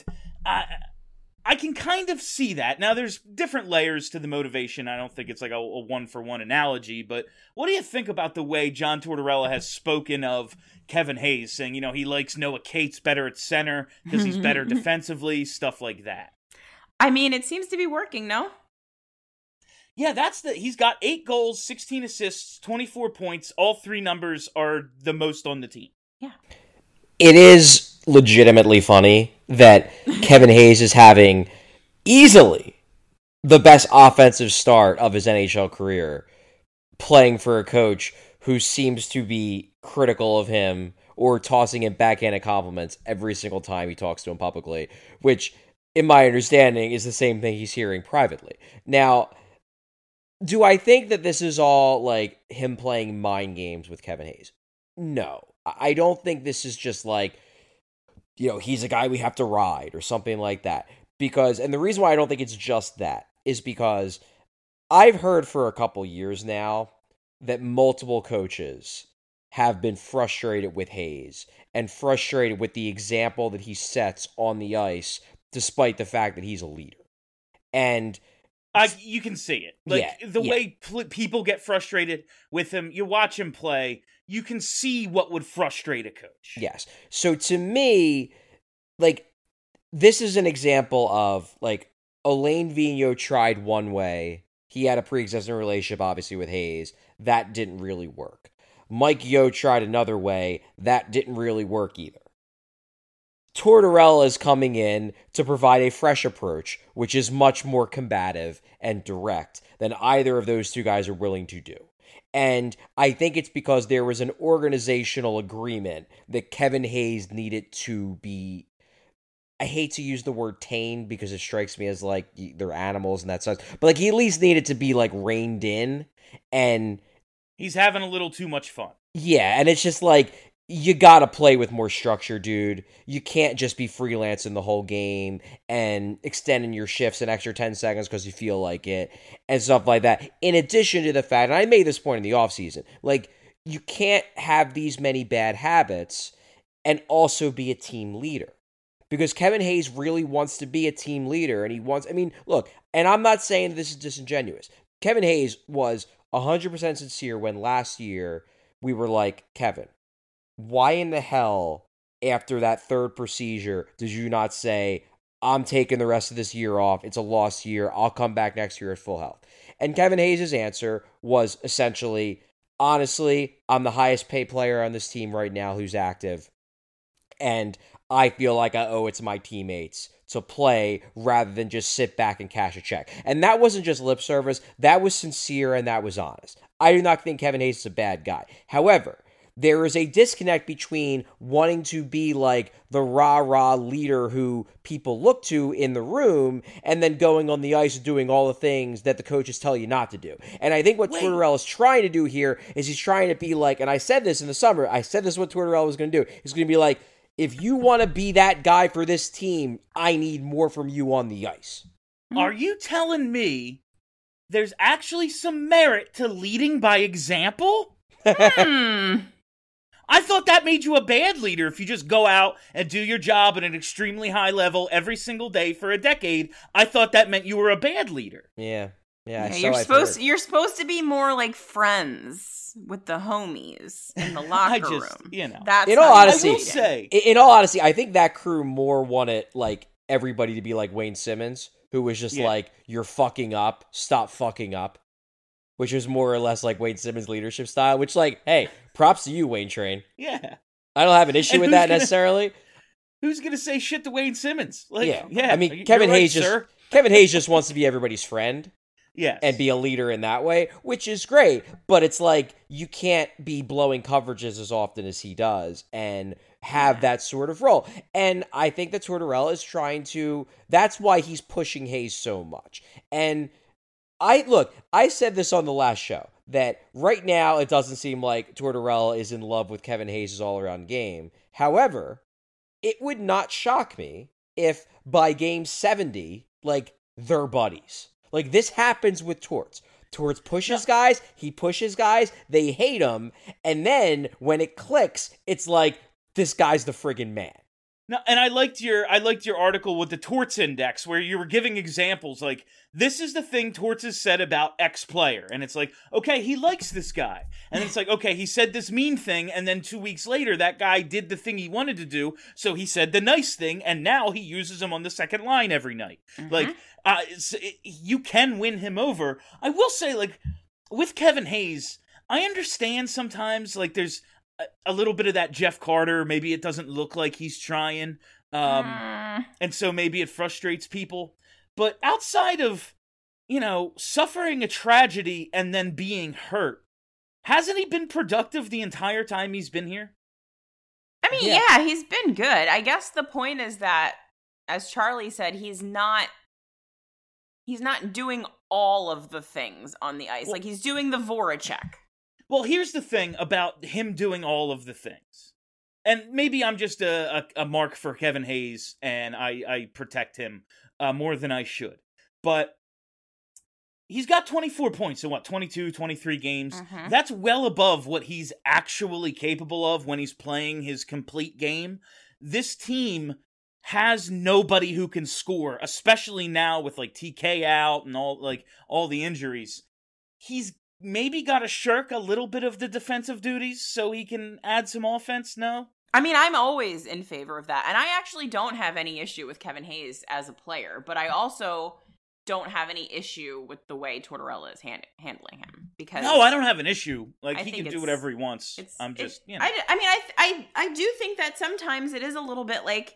Speaker 5: I can kind of see that. Now, there's different layers to the motivation. I don't think it's like a one-for-one analogy. But what do you think about the way John Tortorella has spoken of Kevin Hayes, saying, you know, he likes Noah Cates better at center because he's better defensively, stuff like that?
Speaker 7: I mean, it seems to be working, no?
Speaker 5: Yeah, he's got 8 goals, 16 assists, 24 points. All 3 numbers are the most on the team.
Speaker 7: Yeah.
Speaker 6: It is legitimately funny that Kevin Hayes is having easily the best offensive start of his NHL career, playing for a coach who seems to be critical of him or tossing him backhanded compliments every single time he talks to him publicly, which, in my understanding, is the same thing he's hearing privately. Now, do I think that this is all, like, him playing mind games with Kevin Hayes? No. I don't think this is just like, you know, he's a guy we have to ride or something like that. Because, and the reason why I don't think it's just that is because I've heard for a couple years now that multiple coaches have been frustrated with Hayes and frustrated with the example that he sets on the ice, despite the fact that he's a leader. And
Speaker 5: you can see it. Way people get frustrated with him, you watch him play, you can see what would frustrate a coach.
Speaker 6: Yes. So to me, like, this is an example of, like, Alain Vigneault tried one way. He had a pre-existing relationship, obviously, with Hayes. That didn't really work. Mike Yeo tried another way. That didn't really work either. Tortorella is coming in to provide a fresh approach, which is much more combative and direct than either of those two guys are willing to do. And I think it's because there was an organizational agreement that Kevin Hayes needed to be, I hate to use the word tamed because it strikes me as like they're animals and that sucks, but like he at least needed to be like reined in, and
Speaker 5: he's having a little too much fun.
Speaker 6: Yeah, and it's just like, you gotta play with more structure, dude. You can't just be freelancing the whole game and extending your shifts an extra 10 seconds because you feel like it and stuff like that. In addition to the fact, and I made this point in the offseason, like, you can't have these many bad habits and also be a team leader. Because Kevin Hayes really wants to be a team leader, and he wants, I mean, look, and I'm not saying this is disingenuous. Kevin Hayes was 100% sincere when last year we were like, Kevin, why in the hell, after that third procedure, did you not say, I'm taking the rest of this year off, it's a lost year, I'll come back next year at full health? And Kevin Hayes' answer was essentially, honestly, I'm the highest paid player on this team right now who's active, and I feel like I owe it to my teammates to play rather than just sit back and cash a check. And that wasn't just lip service, that was sincere and that was honest. I do not think Kevin Hayes is a bad guy. However, there is a disconnect between wanting to be like the rah-rah leader who people look to in the room and then going on the ice and doing all the things that the coaches tell you not to do. And I think what Tortorella is trying to do here is he's trying to be like, and I said this in the summer, I said this is what Tortorella was going to do. He's going to be like, if you want to be that guy for this team, I need more from you on the ice.
Speaker 5: Are you telling me there's actually some merit to leading by example? I thought that made you a bad leader if you just go out and do your job at an extremely high level every single day for a decade. I thought that meant you were a bad leader.
Speaker 6: Yeah.
Speaker 7: You're supposed to be more like friends with the homies in the locker room.
Speaker 5: You know.
Speaker 7: That's
Speaker 6: in all honesty,
Speaker 5: I will say.
Speaker 6: In all honesty, I think that crew more wanted like everybody to be like Wayne Simmons, who was just like, you're fucking up, stop fucking up. Which was more or less like Wayne Simmons' leadership style, which, like, hey, props to you, Wayne Train.
Speaker 5: Yeah.
Speaker 6: I don't have an issue with that necessarily.
Speaker 5: Who's going to say shit to Wayne Simmons? Like,
Speaker 6: yeah. I mean, Kevin Hayes just wants to be everybody's friend.
Speaker 5: Yes.
Speaker 6: And be a leader in that way, which is great. But it's like, you can't be blowing coverages as often as he does and have that sort of role. And I think that Tortorella is trying to, that's why he's pushing Hayes so much. And I said this on the last show, that right now it doesn't seem like Tortorella is in love with Kevin Hayes' all-around game. However, it would not shock me if by game 70, like, they're buddies. Like, this happens with Torts. Torts pushes guys, he pushes guys, they hate him, and then when it clicks, it's like, this guy's the friggin' man.
Speaker 5: No, and I liked your article with the Torts Index where you were giving examples like, this is the thing Torts has said about X player. And it's like, okay, he likes this guy. And it's like, okay, he said this mean thing, and then 2 weeks later, that guy did the thing he wanted to do, so he said the nice thing, and now he uses him on the second line every night. Mm-hmm. Like, you can win him over. I will say, like, with Kevin Hayes, I understand sometimes, like, there's a little bit of that Jeff Carter, maybe it doesn't look like he's trying, and so maybe it frustrates people. But outside of, suffering a tragedy and then being hurt, hasn't he been productive the entire time he's been here?
Speaker 7: I mean, yeah, he's been good. I guess the point is that, as Charlie said, he's not doing all of the things on the ice. Well, like, he's doing the Voracek.
Speaker 5: Well, here's the thing about him doing all of the things. And maybe I'm just a mark for Kevin Hayes, and I protect him more than I should. But he's got 24 points in 22, 23 games.
Speaker 7: Mm-hmm.
Speaker 5: That's well above what he's actually capable of when he's playing his complete game. This team has nobody who can score, especially now with like TK out and all the injuries. He's maybe got to shirk a little bit of the defensive duties so he can add some offense. No?
Speaker 7: I mean, I'm always in favor of that. And I actually don't have any issue with Kevin Hayes as a player, but I also don't have any issue with the way Tortorella is handling him. Because
Speaker 5: no, I don't have an issue. Like, he can do whatever he wants. I
Speaker 7: do think that sometimes it is a little bit like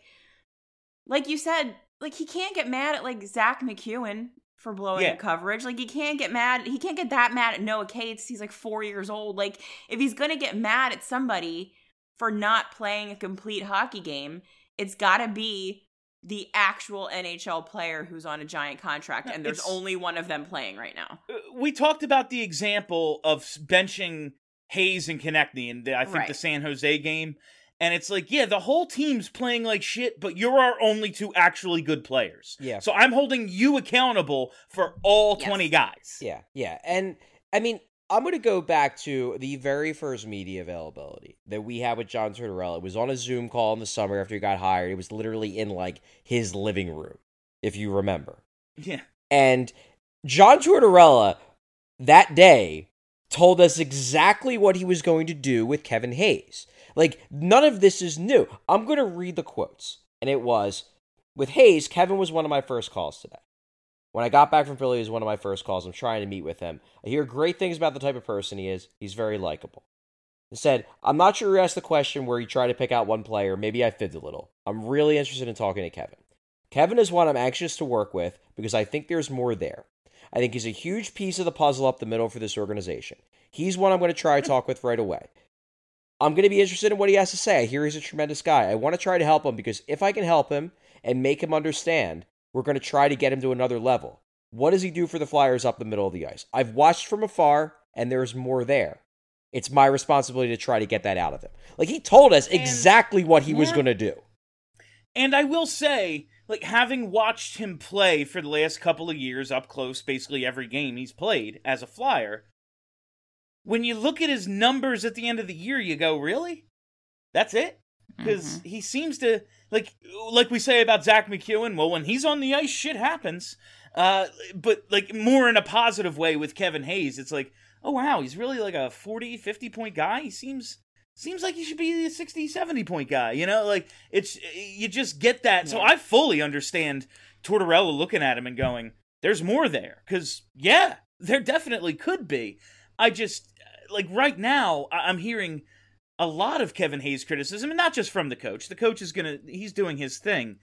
Speaker 7: you said, like, he can't get mad at, like, Zach McEwen for blowing the coverage. Like, he can't get that mad at Noah Cates. He's, like, 4 years old. Like, if he's gonna get mad at somebody for not playing a complete hockey game, it's gotta be the actual NHL player who's on a giant contract, and there's only one of them playing right now.
Speaker 5: We talked about the example of benching Hayes and Konechny in, the San Jose game. And it's like, yeah, the whole team's playing like shit, but you're our only two actually good players.
Speaker 6: Yeah.
Speaker 5: So I'm holding you accountable for all 20 guys.
Speaker 6: Yeah, yeah. And, I mean, I'm going to go back to the very first media availability that we had with John Tortorella. It was on a Zoom call in the summer after he got hired. It was literally in, like, his living room, if you remember.
Speaker 5: Yeah.
Speaker 6: And John Tortorella, that day, told us exactly what he was going to do with Kevin Hayes. Like, none of this is new. I'm going to read the quotes. And it was, with Hayes, Kevin was one of my first calls today. When I got back from Philly, he was one of my first calls. I'm trying to meet with him. I hear great things about the type of person he is. He's very likable. He said, I'm not sure you asked the question where you try to pick out one player. Maybe I fibbed a little. I'm really interested in talking to Kevin. Kevin is one I'm anxious to work with because I think there's more there. I think he's a huge piece of the puzzle up the middle for this organization. He's one I'm going to try to talk with right away. I'm going to be interested in what he has to say. I hear he's a tremendous guy. I want to try to help him because if I can help him and make him understand, we're going to try to get him to another level. What does he do for the Flyers up the middle of the ice? I've watched from afar, and there's more there. It's my responsibility to try to get that out of him. Like, he told us exactly what he was going to do.
Speaker 5: And I will say, like, having watched him play for the last couple of years up close, basically every game he's played as a Flyer, when you look at his numbers at the end of the year, you go, really? That's it? Because he seems to, like we say about Zach McEwen, well, when he's on the ice, shit happens. But, like, more in a positive way with Kevin Hayes, it's like, oh, wow, he's really like a 40, 50-point guy. He seems like he should be a 60, 70-point guy, you know? Like, you just get that. Yeah. So I fully understand Tortorella looking at him and going, there's more there. Because, yeah, there definitely could be. I just, like, right now, I'm hearing a lot of Kevin Hayes criticism, and not just from the coach. The coach he's doing his thing.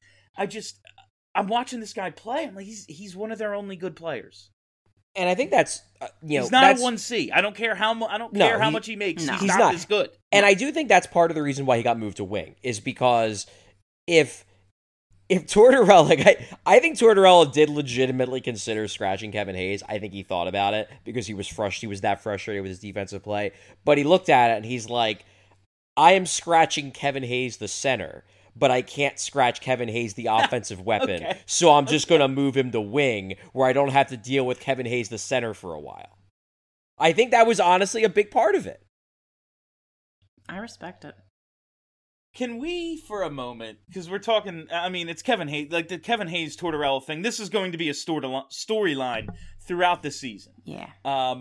Speaker 5: I'm watching this guy play. I'm like, he's one of their only good players.
Speaker 6: And I think that's,
Speaker 5: he's not a 1C. I don't care how much he makes.
Speaker 6: No,
Speaker 5: he's not as good.
Speaker 6: And I do think that's part of the reason why he got moved to wing, is because if Tortorella, like, I think Tortorella did legitimately consider scratching Kevin Hayes. I think he thought about it because he was that frustrated with his defensive play. But he looked at it and he's like, I am scratching Kevin Hayes, the center, but I can't scratch Kevin Hayes, the offensive weapon. Okay. So I'm just going to move him to wing where I don't have to deal with Kevin Hayes, the center, for a while. I think that was honestly a big part of it.
Speaker 7: I respect it.
Speaker 5: Can we, for a moment, because we're talking, I mean, it's Kevin Hayes, like the Kevin Hayes Tortorella thing, this is going to be a storyline throughout the season.
Speaker 7: Yeah.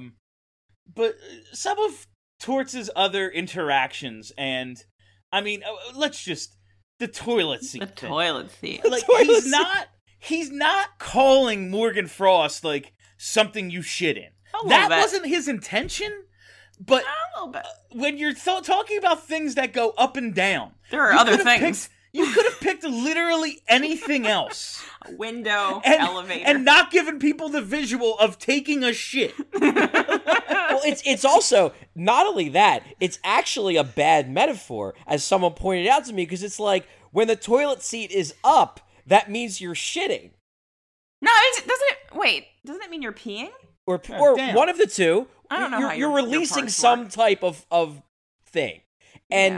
Speaker 5: But some of Torts' other interactions, and, I mean, let's just, the toilet seat thing.
Speaker 7: Toilet seat.
Speaker 5: Like, he's not calling Morgan Frost, like, something you shit in. That wasn't his intention. But when you're talking about things that go up and down,
Speaker 7: there are other things.
Speaker 5: You could have picked literally anything else.
Speaker 7: A window, elevator.
Speaker 5: And not given people the visual of taking a shit.
Speaker 6: Well, it's also, not only that, it's actually a bad metaphor, as someone pointed out to me, because it's like, when the toilet seat is up, that means you're shitting.
Speaker 7: No, doesn't it mean you're peeing?
Speaker 6: Or one of the two.
Speaker 7: I don't know
Speaker 6: you're releasing some type of thing. And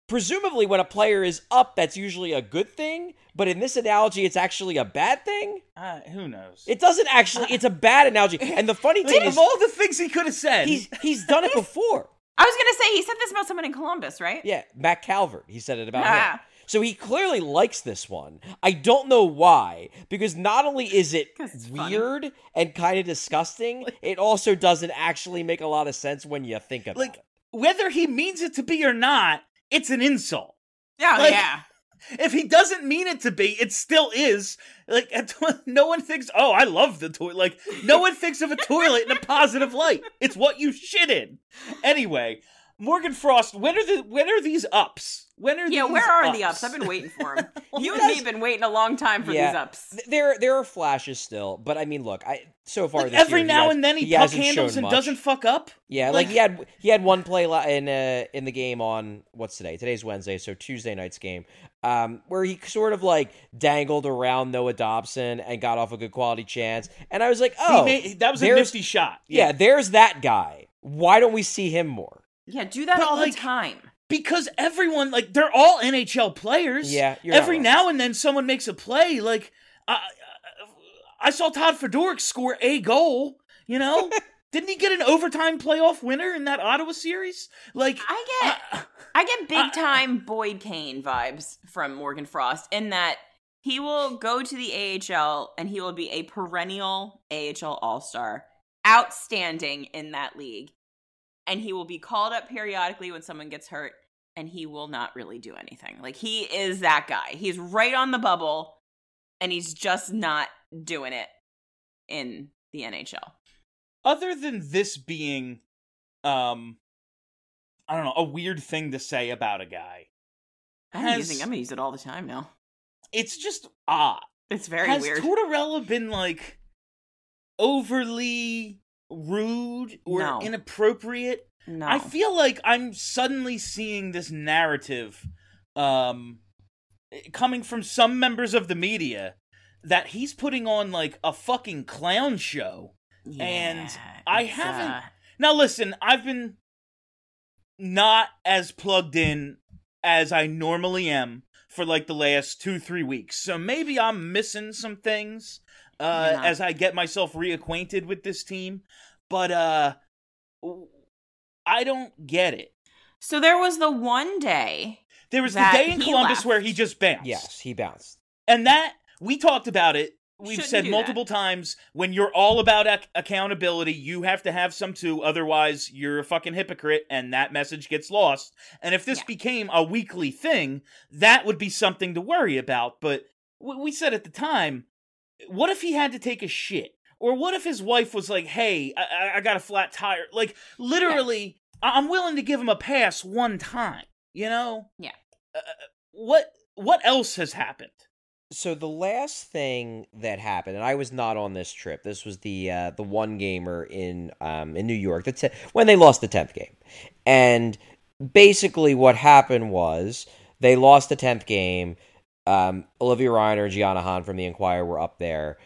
Speaker 6: presumably when a player is up, that's usually a good thing. But in this analogy, it's actually a bad thing.
Speaker 5: Who knows?
Speaker 6: It doesn't actually. It's a bad analogy. And the funny thing is,
Speaker 5: of all the things he could have said,
Speaker 6: he's done it before.
Speaker 7: I was going to say, he said this about someone in Columbus, right?
Speaker 6: Yeah, Matt Calvert. He said it about him. So he clearly likes this one. I don't know why, because not only is it weird and kind of disgusting, it also doesn't actually make a lot of sense when you think about it.
Speaker 5: Whether he means it to be or not, it's an insult.
Speaker 7: Yeah.
Speaker 5: If he doesn't mean it to be, it still is. Like, no one thinks, oh, I love the toilet. Like, no one thinks of a toilet in a positive light. It's what you shit in. Anyway, Morgan Frost, when are these ups? Where are
Speaker 7: the ups? I've been waiting for them. You and me have been waiting a long time for these ups.
Speaker 6: There are flashes still, but I mean, look, so far this
Speaker 5: every
Speaker 6: year,
Speaker 5: now and then he puck handles and doesn't fuck up.
Speaker 6: Yeah, like he had one play in the game on what's today? Today's Wednesday, so Tuesday night's game, where he sort of like dangled around Noah Dobson and got off a good quality chance, and I was like,
Speaker 5: that was a nifty shot.
Speaker 6: Yeah, there's that guy. Why don't we see him more?
Speaker 7: Yeah, do that all the time.
Speaker 5: Because everyone, like, they're all NHL players.
Speaker 6: Yeah,
Speaker 5: every now and then someone makes a play. Like, I saw Todd Fedoruk score a goal, you know? Didn't he get an overtime playoff winner in that Ottawa series? Like,
Speaker 7: I get big time Boyd Kane vibes from Morgan Frost in that he will go to the AHL and he will be a perennial AHL All-Star, outstanding in that league. And he will be called up periodically when someone gets hurt, and he will not really do anything. Like, he is that guy. He's right on the bubble, and he's just not doing it in the NHL.
Speaker 5: Other than this being, I don't know, a weird thing to say about a guy.
Speaker 7: I'm going to use it all the time now.
Speaker 5: It's just odd.
Speaker 7: It's very weird.
Speaker 5: Has Tortorella been, like, overly rude or inappropriate?
Speaker 7: No.
Speaker 5: I feel like I'm suddenly seeing this narrative coming from some members of the media that he's putting on like a fucking clown show.
Speaker 7: Yeah,
Speaker 5: and I haven't now listen, I've been not as plugged in as I normally am for like the last 2-3 weeks. So maybe I'm missing some things as I get myself reacquainted with this team. But I don't get it.
Speaker 7: So there was the one day.
Speaker 5: There was the day in Columbus where he just bounced.
Speaker 6: Yes, he bounced.
Speaker 5: And that, we talked about it. We've said multiple times, when you're all about accountability, you have to have some too. Otherwise, you're a fucking hypocrite, and that message gets lost. And if this became a weekly thing, that would be something to worry about. But we said at the time, what if he had to take a shit? Or what if his wife was like, hey, I got a flat tire? Like, literally, I'm willing to give him a pass one time, you know?
Speaker 7: Yeah.
Speaker 5: What else has happened?
Speaker 6: So the last thing that happened, and I was not on this trip. This was the one gamer in New York when they lost the 10th game. And basically what happened was they lost the 10th game. Olivia Reiner and Gianna Hahn from the Enquirer were up there.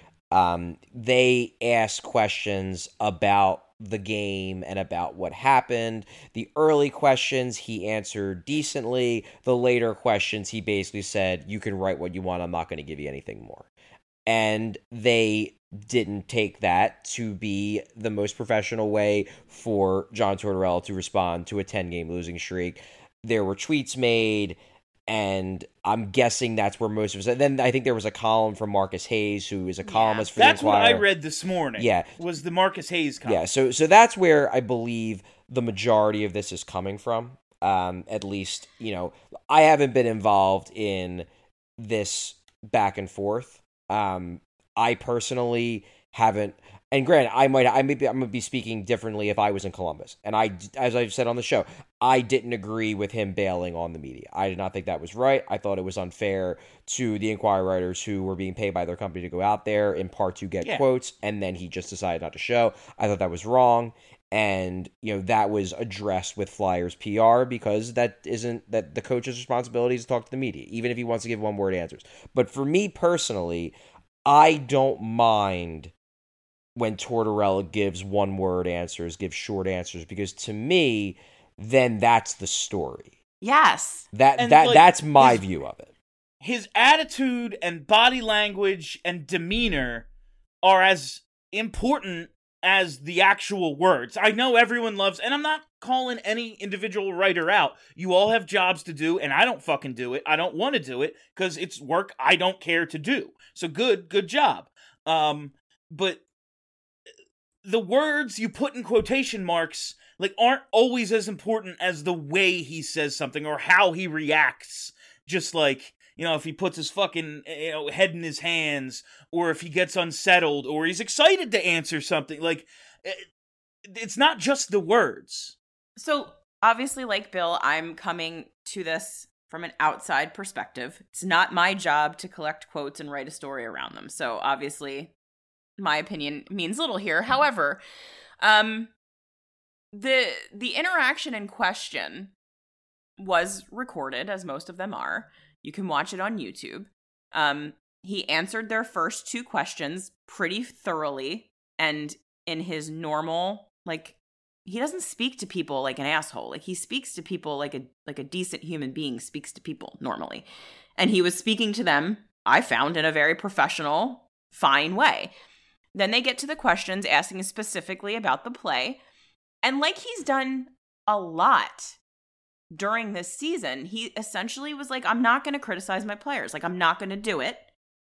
Speaker 6: They asked questions about the game and about what happened. The early questions he answered decently. The later questions he basically said, you can write what you want, I'm not going to give you anything more. And they didn't take that to be the most professional way for John Tortorella to respond to a 10-game losing streak. There were tweets made, and I'm guessing that's where most of it. Then I think there was a column from Marcus Hayes, who is a columnist for the Enquirer.
Speaker 5: That's what I read this morning.
Speaker 6: Yeah,
Speaker 5: was the Marcus Hayes column.
Speaker 6: Yeah, so that's where I believe the majority of this is coming from. At least, you know, I haven't been involved in this back and forth. I personally haven't. And granted, I'm going to be speaking differently if I was in Columbus. And as I've said on the show, I didn't agree with him bailing on the media. I did not think that was right. I thought it was unfair to the Enquirer writers who were being paid by their company to go out there in part to get quotes, and then he just decided not to show. I thought that was wrong. And, you know, that was addressed with Flyers PR because that the coach's responsibility is to talk to the media, even if he wants to give one-word answers. But for me personally, I don't mind when Tortorella gives one-word answers, gives short answers, because to me, then that's the story.
Speaker 7: Yes.
Speaker 6: That's my view of it.
Speaker 5: His attitude and body language and demeanor are as important as the actual words. I know everyone loves, and I'm not calling any individual writer out. You all have jobs to do, and I don't fucking do it. I don't want to do it because it's work I don't care to do. So good job. But the words you put in quotation marks aren't always as important as the way he says something or how he reacts. Just if he puts his fucking head in his hands, or if he gets unsettled, or he's excited to answer something. It's not just the words.
Speaker 7: So obviously, like Bill, I'm coming to this from an outside perspective. It's not my job to collect quotes and write a story around them. So obviously, my opinion means little here. However, the interaction in question was recorded, as most of them are. You can watch it on YouTube. He answered their first two questions pretty thoroughly, and in his normal, he doesn't speak to people like an asshole. He speaks to people like a decent human being speaks to people normally. And he was speaking to them, I found, in a very professional, fine way. Then they get to the questions asking specifically about the play. And like he's done a lot during this season, he essentially was like, I'm not going to criticize my players. I'm not going to do it.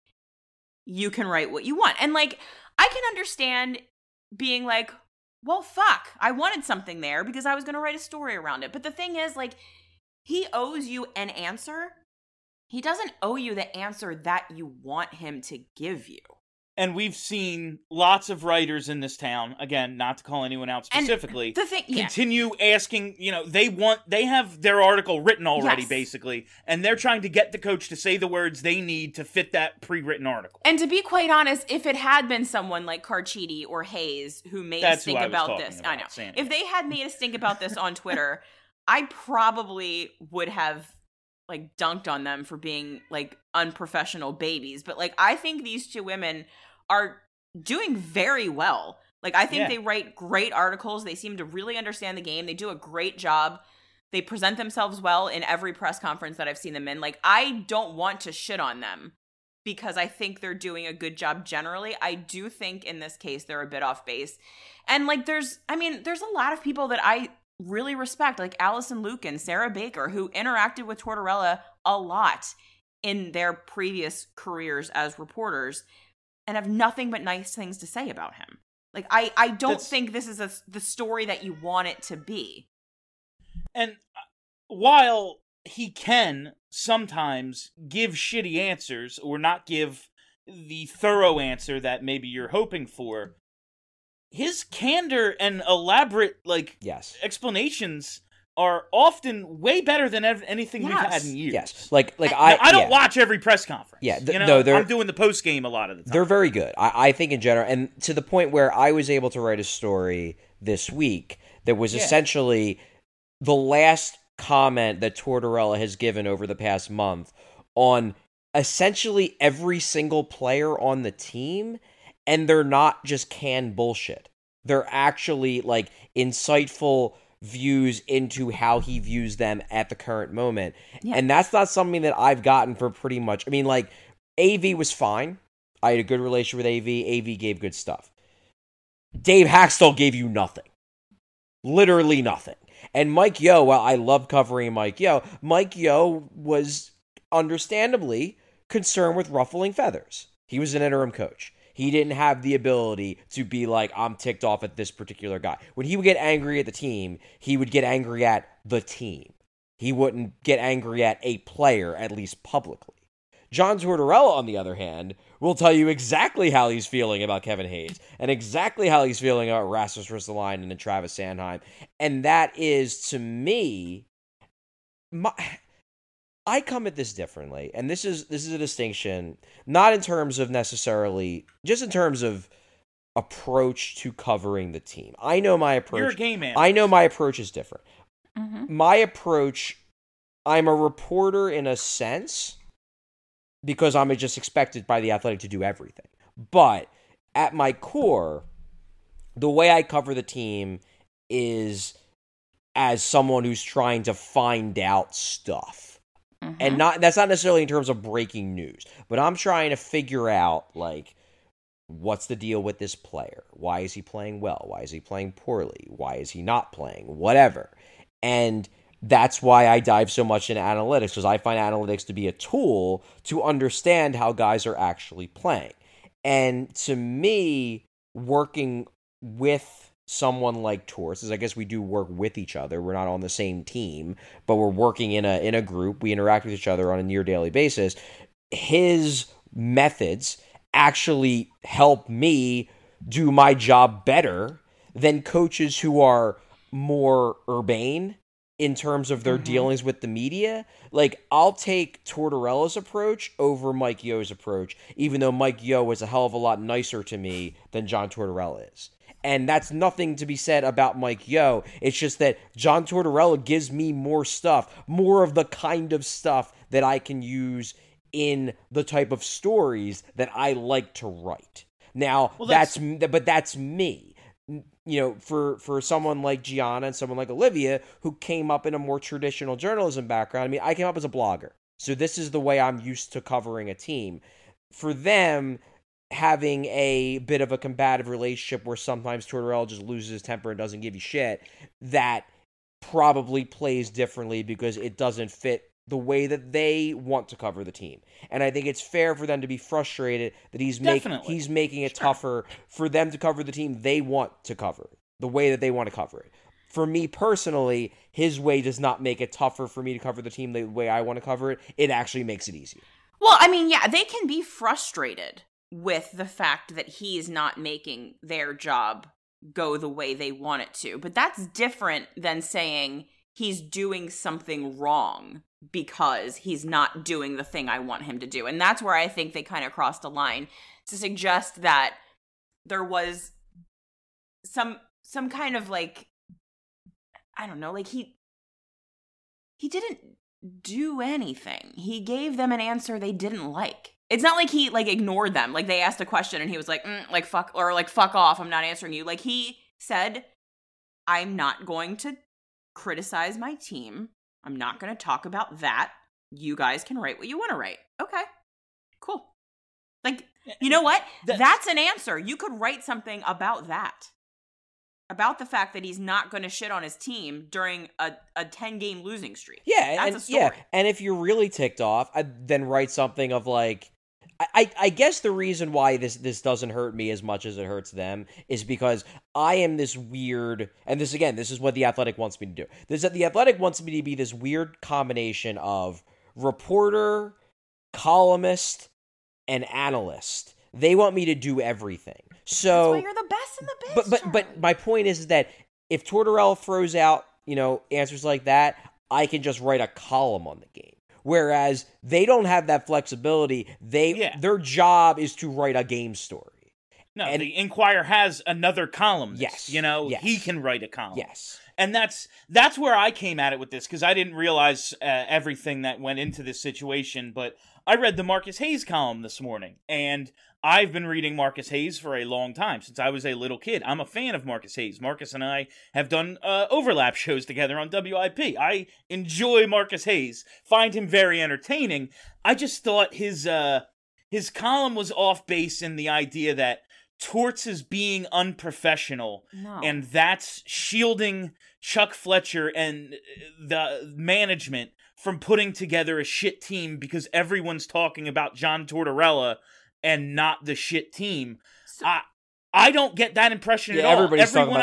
Speaker 7: You can write what you want. And I can understand being like, well, fuck, I wanted something there because I was going to write a story around it. But the thing is, he owes you an answer. He doesn't owe you the answer that you want him to give you.
Speaker 5: And we've seen lots of writers in this town, again, not to call anyone out specifically, continue asking, they have their article written already, basically, and they're trying to get the coach to say the words they need to fit that pre-written article.
Speaker 7: And to be quite honest, if it had been someone like Carchidi or Hayes who made a stink about this, I know. If they had made a stink about this on Twitter, I probably would have dunked on them for being unprofessional babies. But I think these two women are doing very well. I think they write great articles. They seem to really understand the game. They do a great job. They present themselves well in every press conference that I've seen them in. I don't want to shit on them because I think they're doing a good job generally. I do think in this case they're a bit off base. And there's a lot of people that I really respect, like Allison Luke and Sarah Baker, who interacted with Tortorella a lot in their previous careers as reporters and have nothing but nice things to say about him. I don't think this is the story that you want it to be.
Speaker 5: And while he can sometimes give shitty answers or not give the thorough answer that maybe you're hoping for, his candor and elaborate explanations are often way better than anything we've had in years.
Speaker 6: Yes,
Speaker 5: I don't watch every press conference.
Speaker 6: Yeah,
Speaker 5: I'm doing the post game a lot of the time.
Speaker 6: They're very good. I think in general, and to the point where I was able to write a story this week that was essentially the last comment that Tortorella has given over the past month on essentially every single player on the team, and they're not just canned bullshit. They're actually insightful views into how he views them at the current moment. Yeah. And that's not something that I've gotten for pretty much... AV was fine. I had a good relationship with AV. AV gave good stuff. Dave Haxtell gave you nothing. Literally nothing. And Mike Yeo, while I love covering Mike Yeo was understandably concerned with ruffling feathers. He was an interim coach. He didn't have the ability to be I'm ticked off at this particular guy. When he would get angry at the team, he would get angry at the team. He wouldn't get angry at a player, at least publicly. John Tortorella, on the other hand, will tell you exactly how he's feeling about Kevin Hayes and exactly how he's feeling about Rasmus Ristolainen and Travis Sanheim. And that is, to me, I come at this differently, and this is a distinction, not in terms of necessarily, just in terms of approach to covering the team. I know my approach.
Speaker 5: You're a game man.
Speaker 6: I know my approach is different. Mm-hmm. My approach, I'm a reporter in a sense, because I'm just expected by the Athletic to do everything. But at my core, the way I cover the team is as someone who's trying to find out stuff. And that's not necessarily in terms of breaking news, but I'm trying to figure out, like, what's the deal with this player? Why is he playing well? Why is he playing poorly? Why is he not playing? Whatever. And that's why I dive so much into analytics, because I find analytics to be a tool to understand how guys are actually playing. And to me, working with someone like Torts, is I guess we do work with each other. We're not on the same team, but we're working in a group. We interact with each other on a near daily basis. His methods actually help me do my job better than coaches who are more urbane in terms of their dealings with the media. Like, I'll take Tortorella's approach over Mike Yo's approach, even though Mike Yo is a hell of a lot nicer to me than John Tortorella is. And that's nothing to be said about Mike Yo. It's just that John Tortorella gives me more stuff, more of the kind of stuff that I can use in the type of stories that I like to write. Now, that's me. You know, for someone like Gianna and someone like Olivia, who came up in a more traditional journalism background, I mean, I came up as a blogger. So this is the way I'm used to covering a team. For them, having a bit of a combative relationship where sometimes Tortorella just loses his temper and doesn't give you shit, that probably plays differently because it doesn't fit the way that they want to cover the team. And I think it's fair for them to be frustrated that he's making it tougher for them to cover the team they want to cover, the way that they want to cover it. For me personally, his way does not make it tougher for me to cover the team the way I want to cover it. It actually makes it easier.
Speaker 7: Well, I mean, yeah, they can be frustrated with the fact that he's not making their job go the way they want it to. But that's different than saying he's doing something wrong because he's not doing the thing I want him to do. And that's where I think they kind of crossed a line to suggest that there was some kind of, like, I don't know, like he didn't do anything. He gave them an answer they didn't like. It's not like he, like, ignored them. Like, they asked a question and he was like, fuck off, I'm not answering you. Like, he said, I'm not going to criticize my team. I'm not going to talk about that. You guys can write what you want to write. Okay, cool. Like, you know what? That's an answer. You could write something about that. About the fact that he's not going to shit on his team during a 10-game losing streak.
Speaker 6: Yeah,
Speaker 7: that's a story.
Speaker 6: Yeah, and if you're really ticked off, then write something of, like, I guess the reason why this doesn't hurt me as much as it hurts them is because I am this weird, and this is what The Athletic wants me to do. The Athletic wants me to be this weird combination of reporter, columnist, and analyst. They want me to do everything. So
Speaker 7: that's why you're the best in the biz.
Speaker 6: But my point is that if Tortorella throws out, answers like that, I can just write a column on the game. Whereas they don't have that flexibility. Their job is to write a game story.
Speaker 5: No, and the Inquirer has another column.
Speaker 6: Yes.
Speaker 5: He can write a column.
Speaker 6: Yes.
Speaker 5: And that's where I came at it with this, because I didn't realize everything that went into this situation. But I read the Marcus Hayes column this morning, and I've been reading Marcus Hayes for a long time, since I was a little kid. I'm a fan of Marcus Hayes. Marcus and I have done overlap shows together on WIP. I enjoy Marcus Hayes, find him very entertaining. I just thought his column was off base in the idea that Torts is being unprofessional, and that's shielding Chuck Fletcher and the management from putting together a shit team because everyone's talking about John Tortorella and not the shit team. So, I don't get that impression at all. Everyone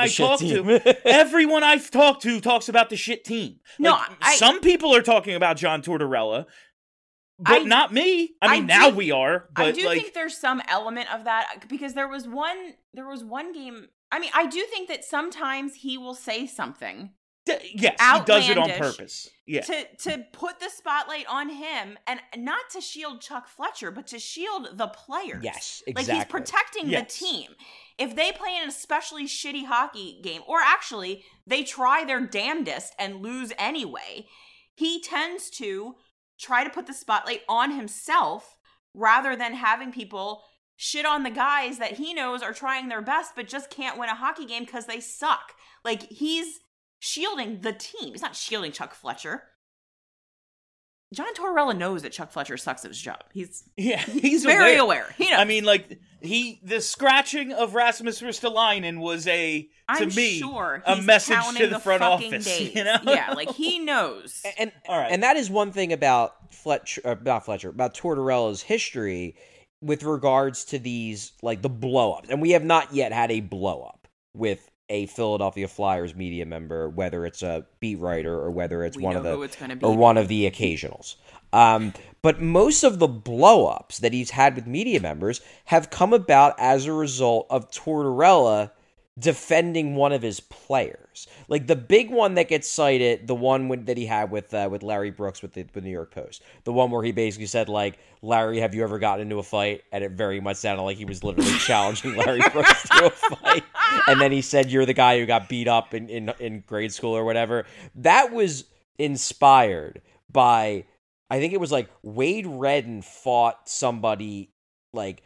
Speaker 5: I've talked to talks about the shit team.
Speaker 7: No,
Speaker 5: some people are talking about John Tortorella, but not me. Now we are. But
Speaker 7: I do think there's some element of that, because there was one game. I do think that sometimes he will say something.
Speaker 5: Yes, he does it on purpose. Yeah.
Speaker 7: To put the spotlight on him, and not to shield Chuck Fletcher, but to shield the players.
Speaker 6: Yes, exactly.
Speaker 7: Like, he's protecting the team. If they play in an especially shitty hockey game, or actually they try their damnedest and lose anyway, he tends to try to put the spotlight on himself rather than having people shit on the guys that he knows are trying their best but just can't win a hockey game because they suck. Like, he's shielding the team. He's not shielding Chuck Fletcher. John Tortorella knows that Chuck Fletcher sucks at his job. He's very aware. He knows.
Speaker 5: I mean, like, the scratching of Rasmus Ristolainen was a message to the front office.
Speaker 7: Days.
Speaker 5: You know?
Speaker 7: Yeah, like, he knows.
Speaker 6: And
Speaker 5: all right.
Speaker 6: And that is one thing about Tortorella's history with regards to these, like, the blow-ups. And we have not yet had a blow-up with a Philadelphia Flyers media member, whether it's a beat writer or whether it's one of the occasionals. But most of the blow-ups that he's had with media members have come about as a result of Tortorella defending one of his players. Like the big one that gets cited, the one that he had with Larry Brooks with the New York Post, the one where he basically said, like, Larry, have you ever gotten into a fight? And it very much sounded like he was literally challenging Larry Brooks to a fight. And then he said, you're the guy who got beat up in grade school or whatever. That was inspired by, I think it was like Wade Redden fought somebody like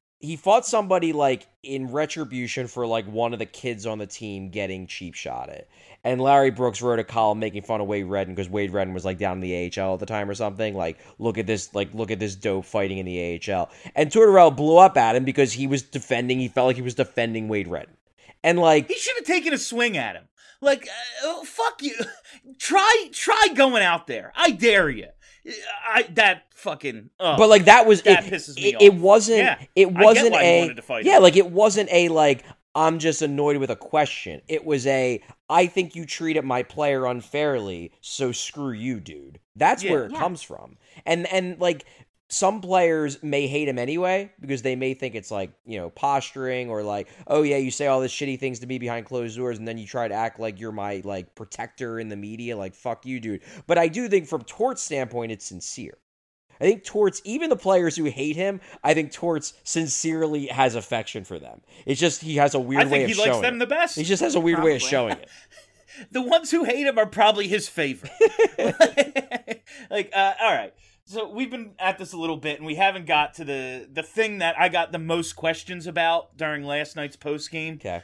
Speaker 6: in retribution for like one of the kids on the team getting cheap shot at. And Larry Brooks wrote a column making fun of Wade Redden because Wade Redden was like down in the AHL at the time or something. Like, look at this dope fighting in the AHL. And Tortorella blew up at him because he felt like he was defending Wade Redden. And like,
Speaker 5: he should have taken a swing at him. Like, fuck you. Try going out there. I dare you. That
Speaker 6: but like that
Speaker 5: pisses me off.
Speaker 6: It wasn't
Speaker 5: I get why you wanted to fight him.
Speaker 6: like it wasn't a like I'm just annoyed with a question. It was I think you treated my player unfairly, so screw you, dude. That's where it comes from. And like some players may hate him anyway because they may think it's like, you know, posturing or like, oh yeah, you say all this shitty things to me behind closed doors and then you try to act like you're my like protector in the media, like fuck you, dude. But I do think from Tort's standpoint, it's sincere. I think Torts, even the players who hate him, I think Torts sincerely has affection for them. It's just he has a weird way of showing it. I think he likes them
Speaker 5: the best.
Speaker 6: He just has a weird way of showing it.
Speaker 5: The ones who hate him are probably his favorite. All right. So we've been at this a little bit, and we haven't got to the thing that I got the most questions about during last night's postgame.
Speaker 6: Okay.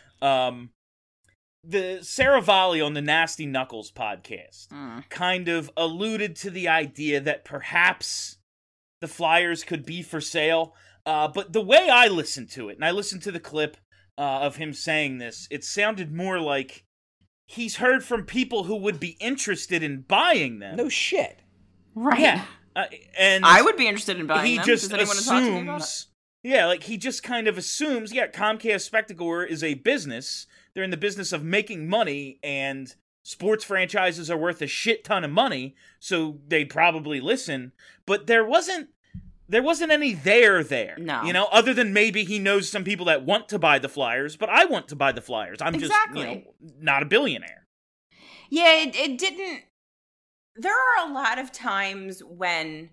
Speaker 5: The Saravalli on the Nasty Knuckles podcast kind of alluded to the idea that perhaps the Flyers could be for sale. But the way I listened to it, and I listened to the clip of him saying this, it sounded more like he's heard from people who would be interested in buying them.
Speaker 6: No shit.
Speaker 7: Right.
Speaker 5: Yeah. And
Speaker 7: I would be interested in buying them.
Speaker 5: Just
Speaker 7: Does anyone talk to me about it?
Speaker 5: Yeah, like he just kind of assumes, Comcast Spectacor is a business. They're in the business of making money, and sports franchises are worth a shit ton of money, so they'd probably listen. But there wasn't any there.
Speaker 7: No.
Speaker 5: You know, other than maybe he knows some people that want to buy the Flyers, but I want to buy the Flyers. I'm just, not a billionaire.
Speaker 7: Yeah, it didn't. There are a lot of times when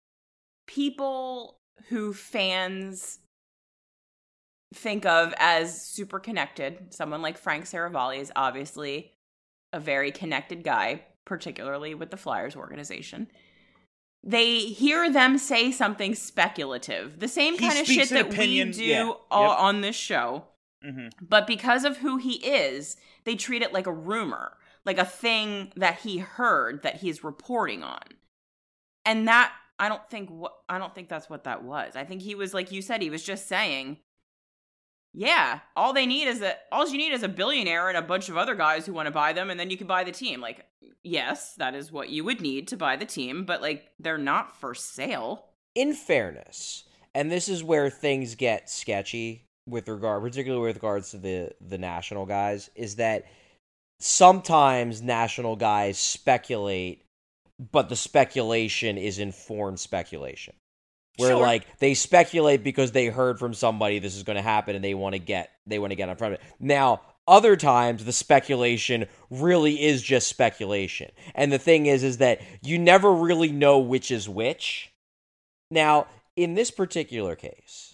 Speaker 7: people who fans think of as super connected, someone like Frank Saravalli is obviously a very connected guy, particularly with the Flyers organization. They hear them say something speculative, the same kind of shit that we do on this show. Mm-hmm. But because of who he is, they treat it like a rumor, like a thing that he heard that he's reporting on. And that I don't think that's what that was. I think he was, like you said, he was just saying, yeah, all you need is a billionaire and a bunch of other guys who want to buy them, and then you can buy the team. Like, yes, that is what you would need to buy the team, but like they're not for sale.
Speaker 6: In fairness, and this is where things get sketchy particularly with regards to the national guys, is that sometimes national guys speculate, but the speculation is informed speculation. Where like they speculate because they heard from somebody this is going to happen and they want to get in front of it. Now, other times the speculation really is just speculation. And the thing is that you never really know which is which. Now, in this particular case,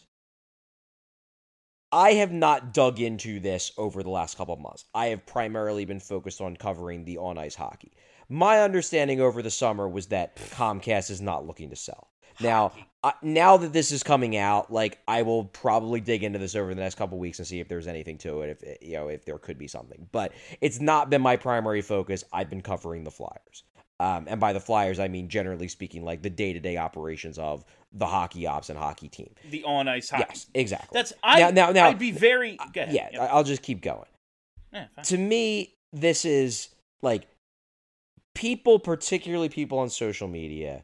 Speaker 6: I have not dug into this over the last couple of months. I have primarily been focused on covering the on-ice hockey. My understanding over the summer was that Comcast is not looking to sell. Now, now that this is coming out, like, I will probably dig into this over the next couple weeks and see if there's anything to it, if there could be something. But it's not been my primary focus. I've been covering the Flyers. And by the Flyers, I mean, generally speaking, like the day-to-day operations of the hockey ops and hockey team.
Speaker 5: The on-ice hockey.
Speaker 6: Yes, exactly.
Speaker 5: Now, I'd be very... Go ahead.
Speaker 6: Yeah, I'll just keep going.
Speaker 5: Yeah, fine.
Speaker 6: To me, this is, like, people, particularly people on social media,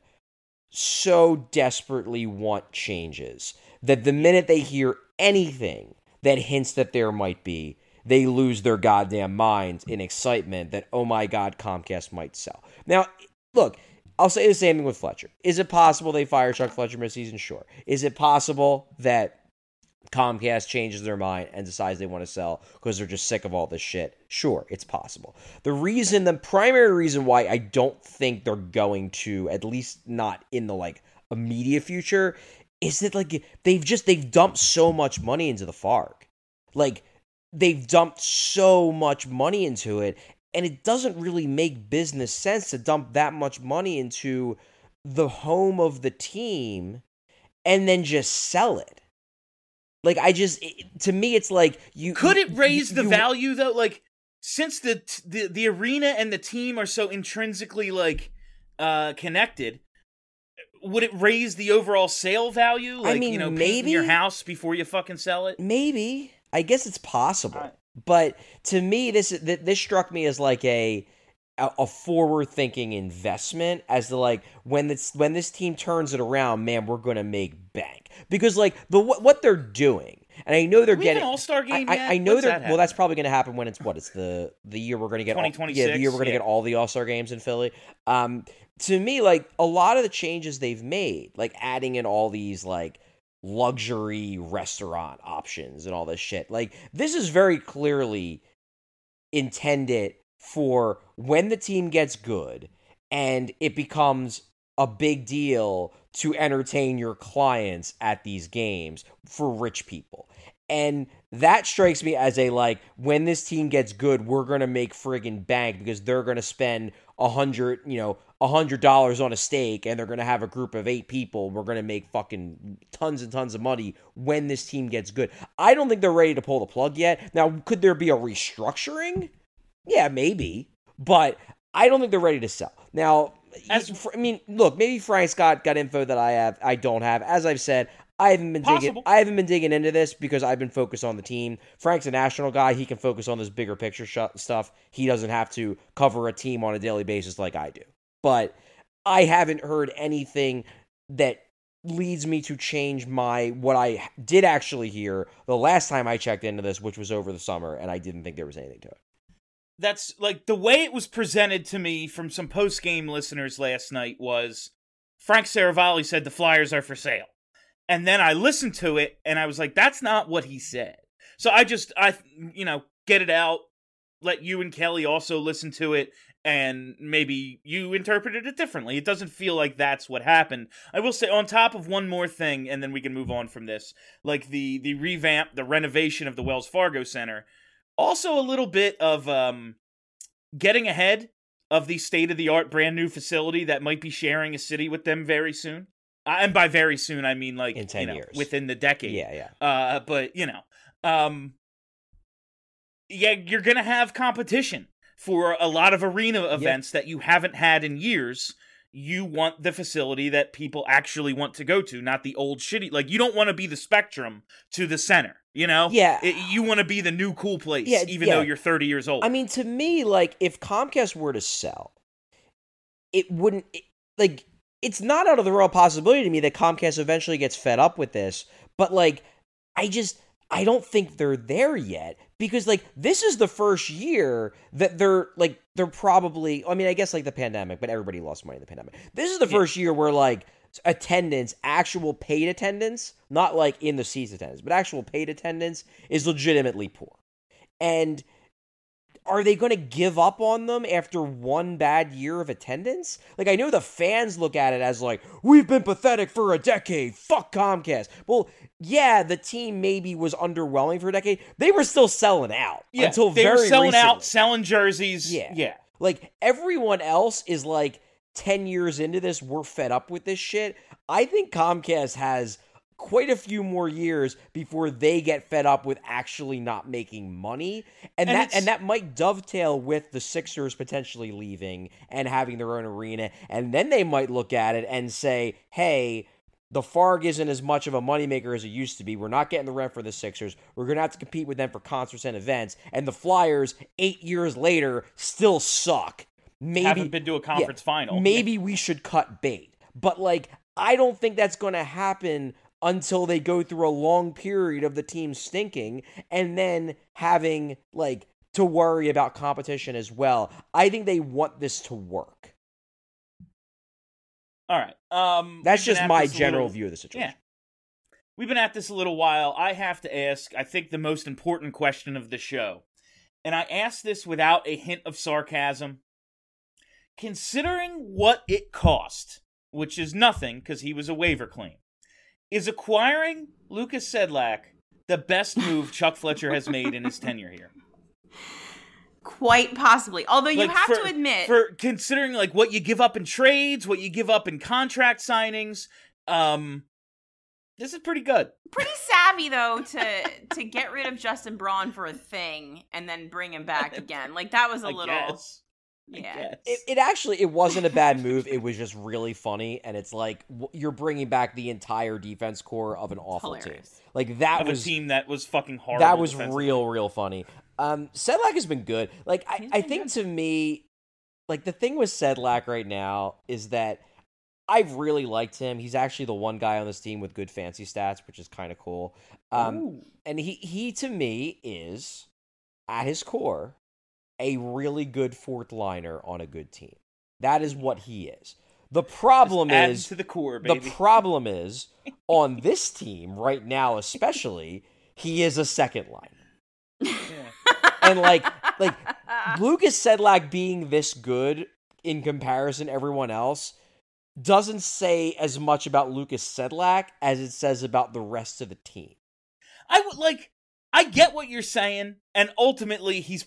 Speaker 6: so desperately want changes that the minute they hear anything that hints that there might be, they lose their goddamn minds in excitement that, oh my God, Comcast might sell. Now, look, I'll say the same thing with Fletcher. Is it possible they fire Chuck Fletcher mid-season? Sure. Is it possible that Comcast changes their mind and decides they want to sell because they're just sick of all this shit? Sure, it's possible. The primary reason why I don't think they're going to, at least not in the, like, immediate future, is that, like, they've dumped so much money into the FARC. Like, they've dumped so much money into it, and it doesn't really make business sense to dump that much money into the home of the team and then just sell it. Like, to me, it's like you...
Speaker 5: Could it raise the value, though? Like, since the arena and the team are so intrinsically, like, connected, would it raise the overall sale value? Like, I mean, painting your house before you fucking sell it?
Speaker 6: Maybe. I guess it's possible. But to me, this struck me as like a forward-thinking investment as to, like, when this team turns it around, man, we're going to make bank. Because, like, what they're doing, and I know they're getting
Speaker 5: an All-Star game yet?
Speaker 6: I know well, that's probably going to happen when it's the year we're going to get
Speaker 5: 2026.
Speaker 6: The year we're going to get all the All-Star games in Philly. To me, like, a lot of the changes they've made, like adding in all these, like, luxury restaurant options and all this shit, like, this is very clearly intended for when the team gets good and it becomes a big deal to entertain your clients at these games for rich people. And that strikes me as a, like, when this team gets good, we're going to make friggin' bank because they're going to spend $100 on a steak and they're going to have a group of 8 people. We're going to make fucking tons and tons of money when this team gets good. I don't think they're ready to pull the plug yet. Now, could there be a restructuring? Yeah, maybe. But I don't think they're ready to sell. Now, look, maybe Frank Scott got info that I don't have. As I've said, I haven't been digging into this because I've been focused on the team. Frank's a national guy. He can focus on this bigger picture stuff. He doesn't have to cover a team on a daily basis like I do. But I haven't heard anything that leads me to change what I did actually hear the last time I checked into this, which was over the summer, and I didn't think there was anything to it.
Speaker 5: That's, like, the way it was presented to me from some post-game listeners last night was Frank Saravalli said the Flyers are for sale. And then I listened to it, and I was like, that's not what he said. So I get it out, let you and Kelly also listen to it, and maybe you interpreted it differently. It doesn't feel like that's what happened. I will say, on top of one more thing, and then we can move on from this, like the revamp, the renovation of the Wells Fargo Center, also a little bit of getting ahead of the state-of-the-art brand new facility that might be sharing a city with them very soon. And by very soon, I mean, like,
Speaker 6: in 10 years.
Speaker 5: Within the decade.
Speaker 6: Yeah.
Speaker 5: But, you're going to have competition for a lot of arena events that you haven't had in years. You want the facility that people actually want to go to, not the old shitty. Like, you don't want to be the Spectrum to the Center, you know?
Speaker 6: Yeah.
Speaker 5: You want to be the new cool place, even though you're 30 years old.
Speaker 6: I mean, to me, like, if Comcast were to sell, it wouldn't... It's not out of the real possibility to me that Comcast eventually gets fed up with this, but, like, I don't think they're there yet, because, like, this is the first year that they're probably, I mean, I guess, like, the pandemic, but everybody lost money in the pandemic. This is the first year where, like, attendance, actual paid attendance, not, like, in the seats attendance, but actual paid attendance is legitimately poor. And are they going to give up on them after one bad year of attendance? Like, I know the fans look at it as, like, we've been pathetic for a decade. Fuck Comcast. Well, yeah, the team maybe was underwhelming for a decade. They were still selling out until very recently. They were selling out,
Speaker 5: selling jerseys.
Speaker 6: Yeah. Like, everyone else is, like, 10 years into this, we're fed up with this shit. I think Comcast has quite a few more years before they get fed up with actually not making money. And that might dovetail with the Sixers potentially leaving and having their own arena. And then they might look at it and say, hey, the Farg isn't as much of a moneymaker as it used to be. We're not getting the rent for the Sixers. We're going to have to compete with them for concerts and events. And the Flyers, 8 years later, still suck. Maybe
Speaker 5: haven't been to a conference final.
Speaker 6: Maybe we should cut bait. But, I don't think that's going to happen until they go through a long period of the team stinking and then having, to worry about competition as well. I think they want this to work.
Speaker 5: All right.
Speaker 6: That's just my general view of the situation.
Speaker 5: Yeah. We've been at this a little while. I have to ask, I think, the most important question of the show. And I ask this without a hint of sarcasm. Considering what it cost, which is nothing because he was a waiver claim, is acquiring Lukas Sedlak the best move Chuck Fletcher has made in his tenure here?
Speaker 7: Quite possibly. Although you have to admit,
Speaker 5: for considering what you give up in trades, what you give up in contract signings, this is pretty good.
Speaker 7: Pretty savvy though to get rid of Justin Braun for a thing and then bring him back again. That was a little.
Speaker 5: Guess.
Speaker 7: Yeah.
Speaker 6: It wasn't a bad move. It was just really funny, and it's you're bringing back the entire defense core of an awful
Speaker 7: Hilarious.
Speaker 6: Team. That was
Speaker 5: a team that was fucking horrible.
Speaker 6: That was real funny. Sedlak has been good. I think to me, the thing with Sedlak right now is that I've really liked him. He's actually the one guy on this team with good fancy stats, which is kind of cool. And he to me is, at his core, a really good fourth liner on a good team. That is what he is. The problem is
Speaker 5: to the core, baby.
Speaker 6: The problem is on this team right now, especially, he is a second liner. Yeah. And Lukas Sedlak being this good in comparison to everyone else doesn't say as much about Lukas Sedlak as it says about the rest of the team.
Speaker 5: I get what you're saying, and ultimately he's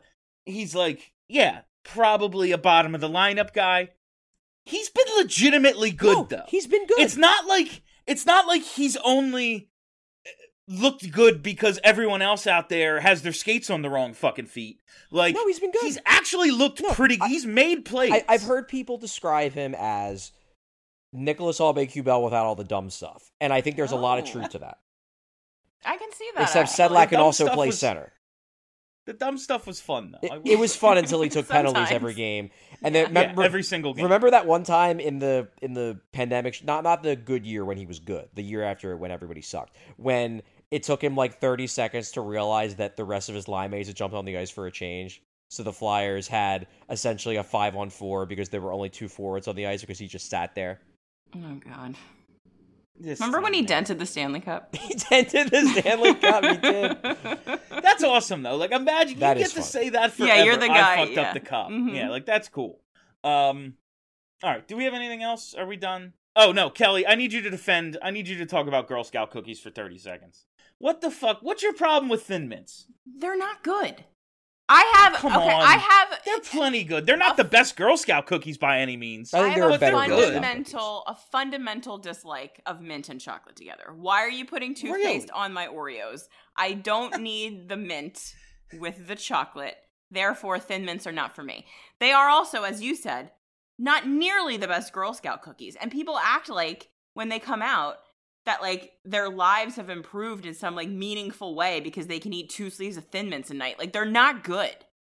Speaker 5: probably a bottom of the lineup guy. He's been legitimately good though.
Speaker 6: He's been good.
Speaker 5: It's not like he's only looked good because everyone else out there has their skates on the wrong fucking feet.
Speaker 6: No, he's been good.
Speaker 5: He's actually looked pretty. He's made plays.
Speaker 6: I've heard people describe him as Nicholas Aube-Kubel without all the dumb stuff, and I think there's a lot of truth to that.
Speaker 7: I can see that.
Speaker 6: Except Sedlak can also play center.
Speaker 5: The dumb stuff was fun, though.
Speaker 6: It was fun until he took penalties every game, and then
Speaker 5: every single game.
Speaker 6: Remember that one time in the pandemic, not the good year when he was good, the year after when everybody sucked, when it took him 30 seconds to realize that the rest of his line mates had jumped on the ice for a change. So the Flyers had essentially a 5-on-4 because there were only 2 forwards on the ice because he just sat there.
Speaker 7: Oh God. Remember when he dented the Stanley Cup?
Speaker 6: He dented the Stanley Cup, he did.
Speaker 5: That's awesome, though. Imagine
Speaker 6: that
Speaker 5: you get to say that forever.
Speaker 7: Yeah, you're the guy.
Speaker 5: I fucked up the cup. Mm-hmm. Yeah, that's cool. All right, do we have anything else? Are we done? Oh, no, Kelly, I need you to talk about Girl Scout cookies for 30 seconds. What the fuck? What's your problem with Thin Mints?
Speaker 7: They're not good. I have.
Speaker 5: They're plenty good. They're not the best Girl Scout cookies by any means.
Speaker 6: I think they're a better
Speaker 7: a fundamental dislike of mint and chocolate together. Why are you putting toothpaste on my Oreos? I don't need the mint with the chocolate. Therefore, Thin Mints are not for me. They are also, as you said, not nearly the best Girl Scout cookies. And people act like when they come out that their lives have improved in some meaningful way because they can eat 2 sleeves of Thin Mints a night. They're not good.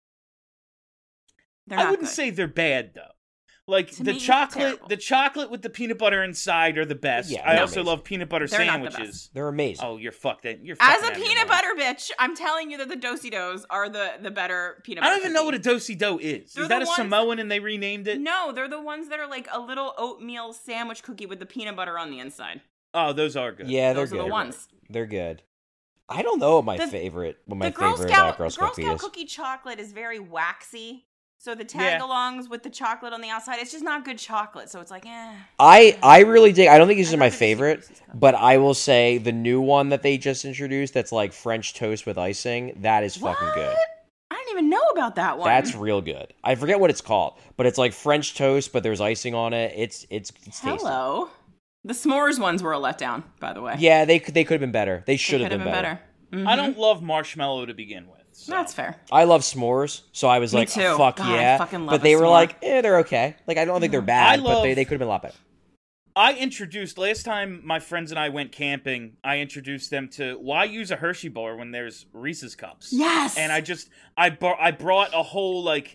Speaker 5: I wouldn't say they're bad though. The chocolate with the peanut butter inside are the best.
Speaker 6: Yeah,
Speaker 5: I also love peanut butter sandwiches.
Speaker 6: They're amazing.
Speaker 5: Oh, you're fucked.
Speaker 7: As a peanut butter bitch, I'm telling you that the Do-si-dos are the better peanut butter.
Speaker 5: I don't even know what a Do-si-do is. Is that a Samoan and they renamed it?
Speaker 7: No, they're the ones that are a little oatmeal sandwich cookie with the peanut butter on the inside.
Speaker 5: Oh, those are good.
Speaker 6: Yeah, they're good.
Speaker 7: Those are the ones.
Speaker 6: They're good. I don't know what my favorite Girl Scout
Speaker 7: cookie chocolate is very waxy. So the tag-alongs with the chocolate on the outside, it's just not good chocolate. So it's
Speaker 6: I really dig. I don't think this is my favorite, but I will say the new one that they just introduced that's French toast with icing, that is fucking good.
Speaker 7: I didn't even know about that one.
Speaker 6: That's real good. I forget what it's called, but it's French toast, but there's icing on it. It's tasty.
Speaker 7: Hello. The s'mores ones were a letdown, by the way.
Speaker 6: Yeah, they could have been better. They should have been better.
Speaker 7: Mm-hmm.
Speaker 5: I don't love marshmallow to begin with. So.
Speaker 7: That's fair.
Speaker 6: I love s'mores, so I was
Speaker 7: Me
Speaker 6: like,
Speaker 7: too.
Speaker 6: oh, fuck
Speaker 7: God,
Speaker 6: yeah.
Speaker 7: I fucking love
Speaker 6: but they
Speaker 7: a
Speaker 6: were
Speaker 7: s'more.
Speaker 6: like, they're okay. Like, I don't think they're bad, but they could have been a lot better.
Speaker 5: I introduced, last time my friends and I went camping, I introduced them to why use a Hershey bar when there's Reese's Cups?
Speaker 7: Yes!
Speaker 5: And I brought a whole, like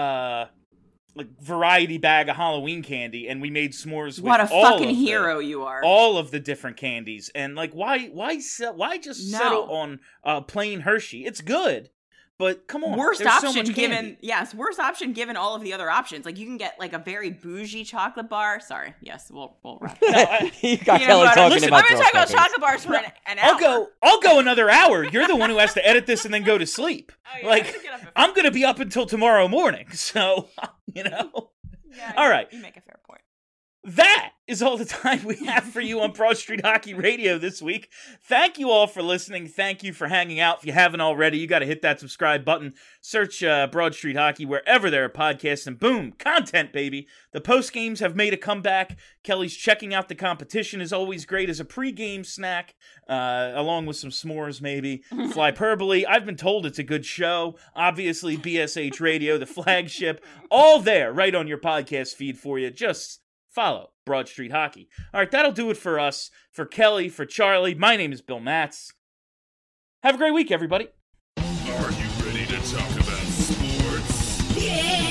Speaker 5: variety bag of Halloween candy, and we made s'mores with
Speaker 7: what a
Speaker 5: all
Speaker 7: fucking
Speaker 5: of
Speaker 7: hero you are.
Speaker 5: all of the different candies. And, like, why just settle on plain Hershey? It's good. But come on,
Speaker 7: worst
Speaker 5: there's
Speaker 7: option
Speaker 5: so much
Speaker 7: given worst option given all of the other options. Like you can get like a very bougie chocolate bar. Sorry, yes, we'll wrap it up.
Speaker 6: You got Kelly talking about.
Speaker 7: I'm going to talk about chocolate bars for an hour.
Speaker 5: I'll go another hour. You're the one who has to edit this and then go to sleep.
Speaker 7: Oh, yeah,
Speaker 5: like I'm going to be up until tomorrow morning. So
Speaker 7: Yeah,
Speaker 5: all right.
Speaker 7: You make a fair point.
Speaker 5: That is all the time we have for you on Broad Street Hockey Radio this week. Thank you all for listening. Thank you for hanging out. If you haven't already, you got to hit that subscribe button. Search Broad Street Hockey wherever there are podcasts, and boom, content, baby. The post games have made a comeback. Kelly's checking out the competition is always great as a pregame snack, along with some s'mores, maybe. Flyperbole. I've been told it's a good show. Obviously, BSH Radio, the flagship, all there, right on your podcast feed for you. Just follow Broad Street Hockey. All right, that'll do it for us. For Kelly, for Charlie, my name is Bill Matz. Have a great week, everybody.
Speaker 2: Are you ready to talk about sports?
Speaker 11: Yeah!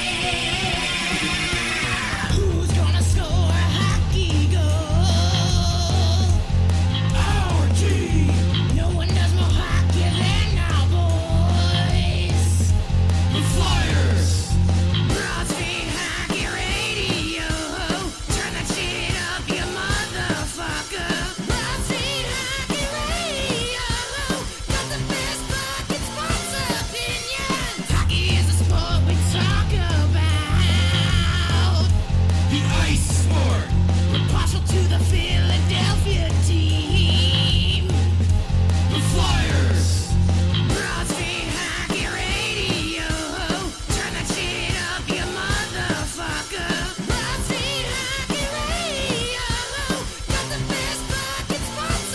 Speaker 11: Who's gonna score a hockey goal? Our team! No one does more hockey than our boys. The Flyers! Broad Street Hockey Radio. Turn that shit up, you motherfucker. Broad Street Hockey Radio. Got the best fucking sports opinions. Hockey is a sport we talk about. The ice sport. We're partial to the Philadelphia team. The Flyers. Broad Street Hockey Radio. Turn that shit up, you motherfucker. Broad Street Hockey Radio. Got the best fucking sports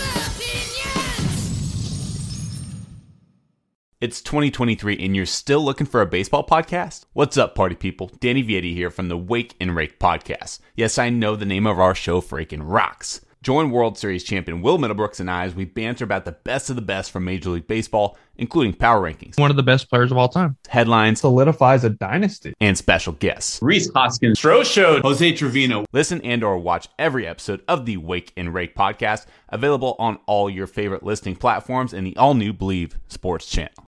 Speaker 11: opinions.
Speaker 12: It's 2023 and you're still looking for a baseball podcast? What's up, party people? Danny Vietti here from the Wake and Rake podcast. Yes, I know the name of our show freaking rocks. Join World Series champion Will Middlebrooks and I as we banter about the best of the best from Major League Baseball, including power rankings,
Speaker 13: one of the best players of all time,
Speaker 12: headlines,
Speaker 13: solidifies a dynasty,
Speaker 12: and special guests.
Speaker 14: Rhys Hoskins, Stroh showed Jose Trevino.
Speaker 12: Listen and or watch every episode of the Wake and Rake podcast, available on all your favorite listening platforms and the all-new Believe Sports channel.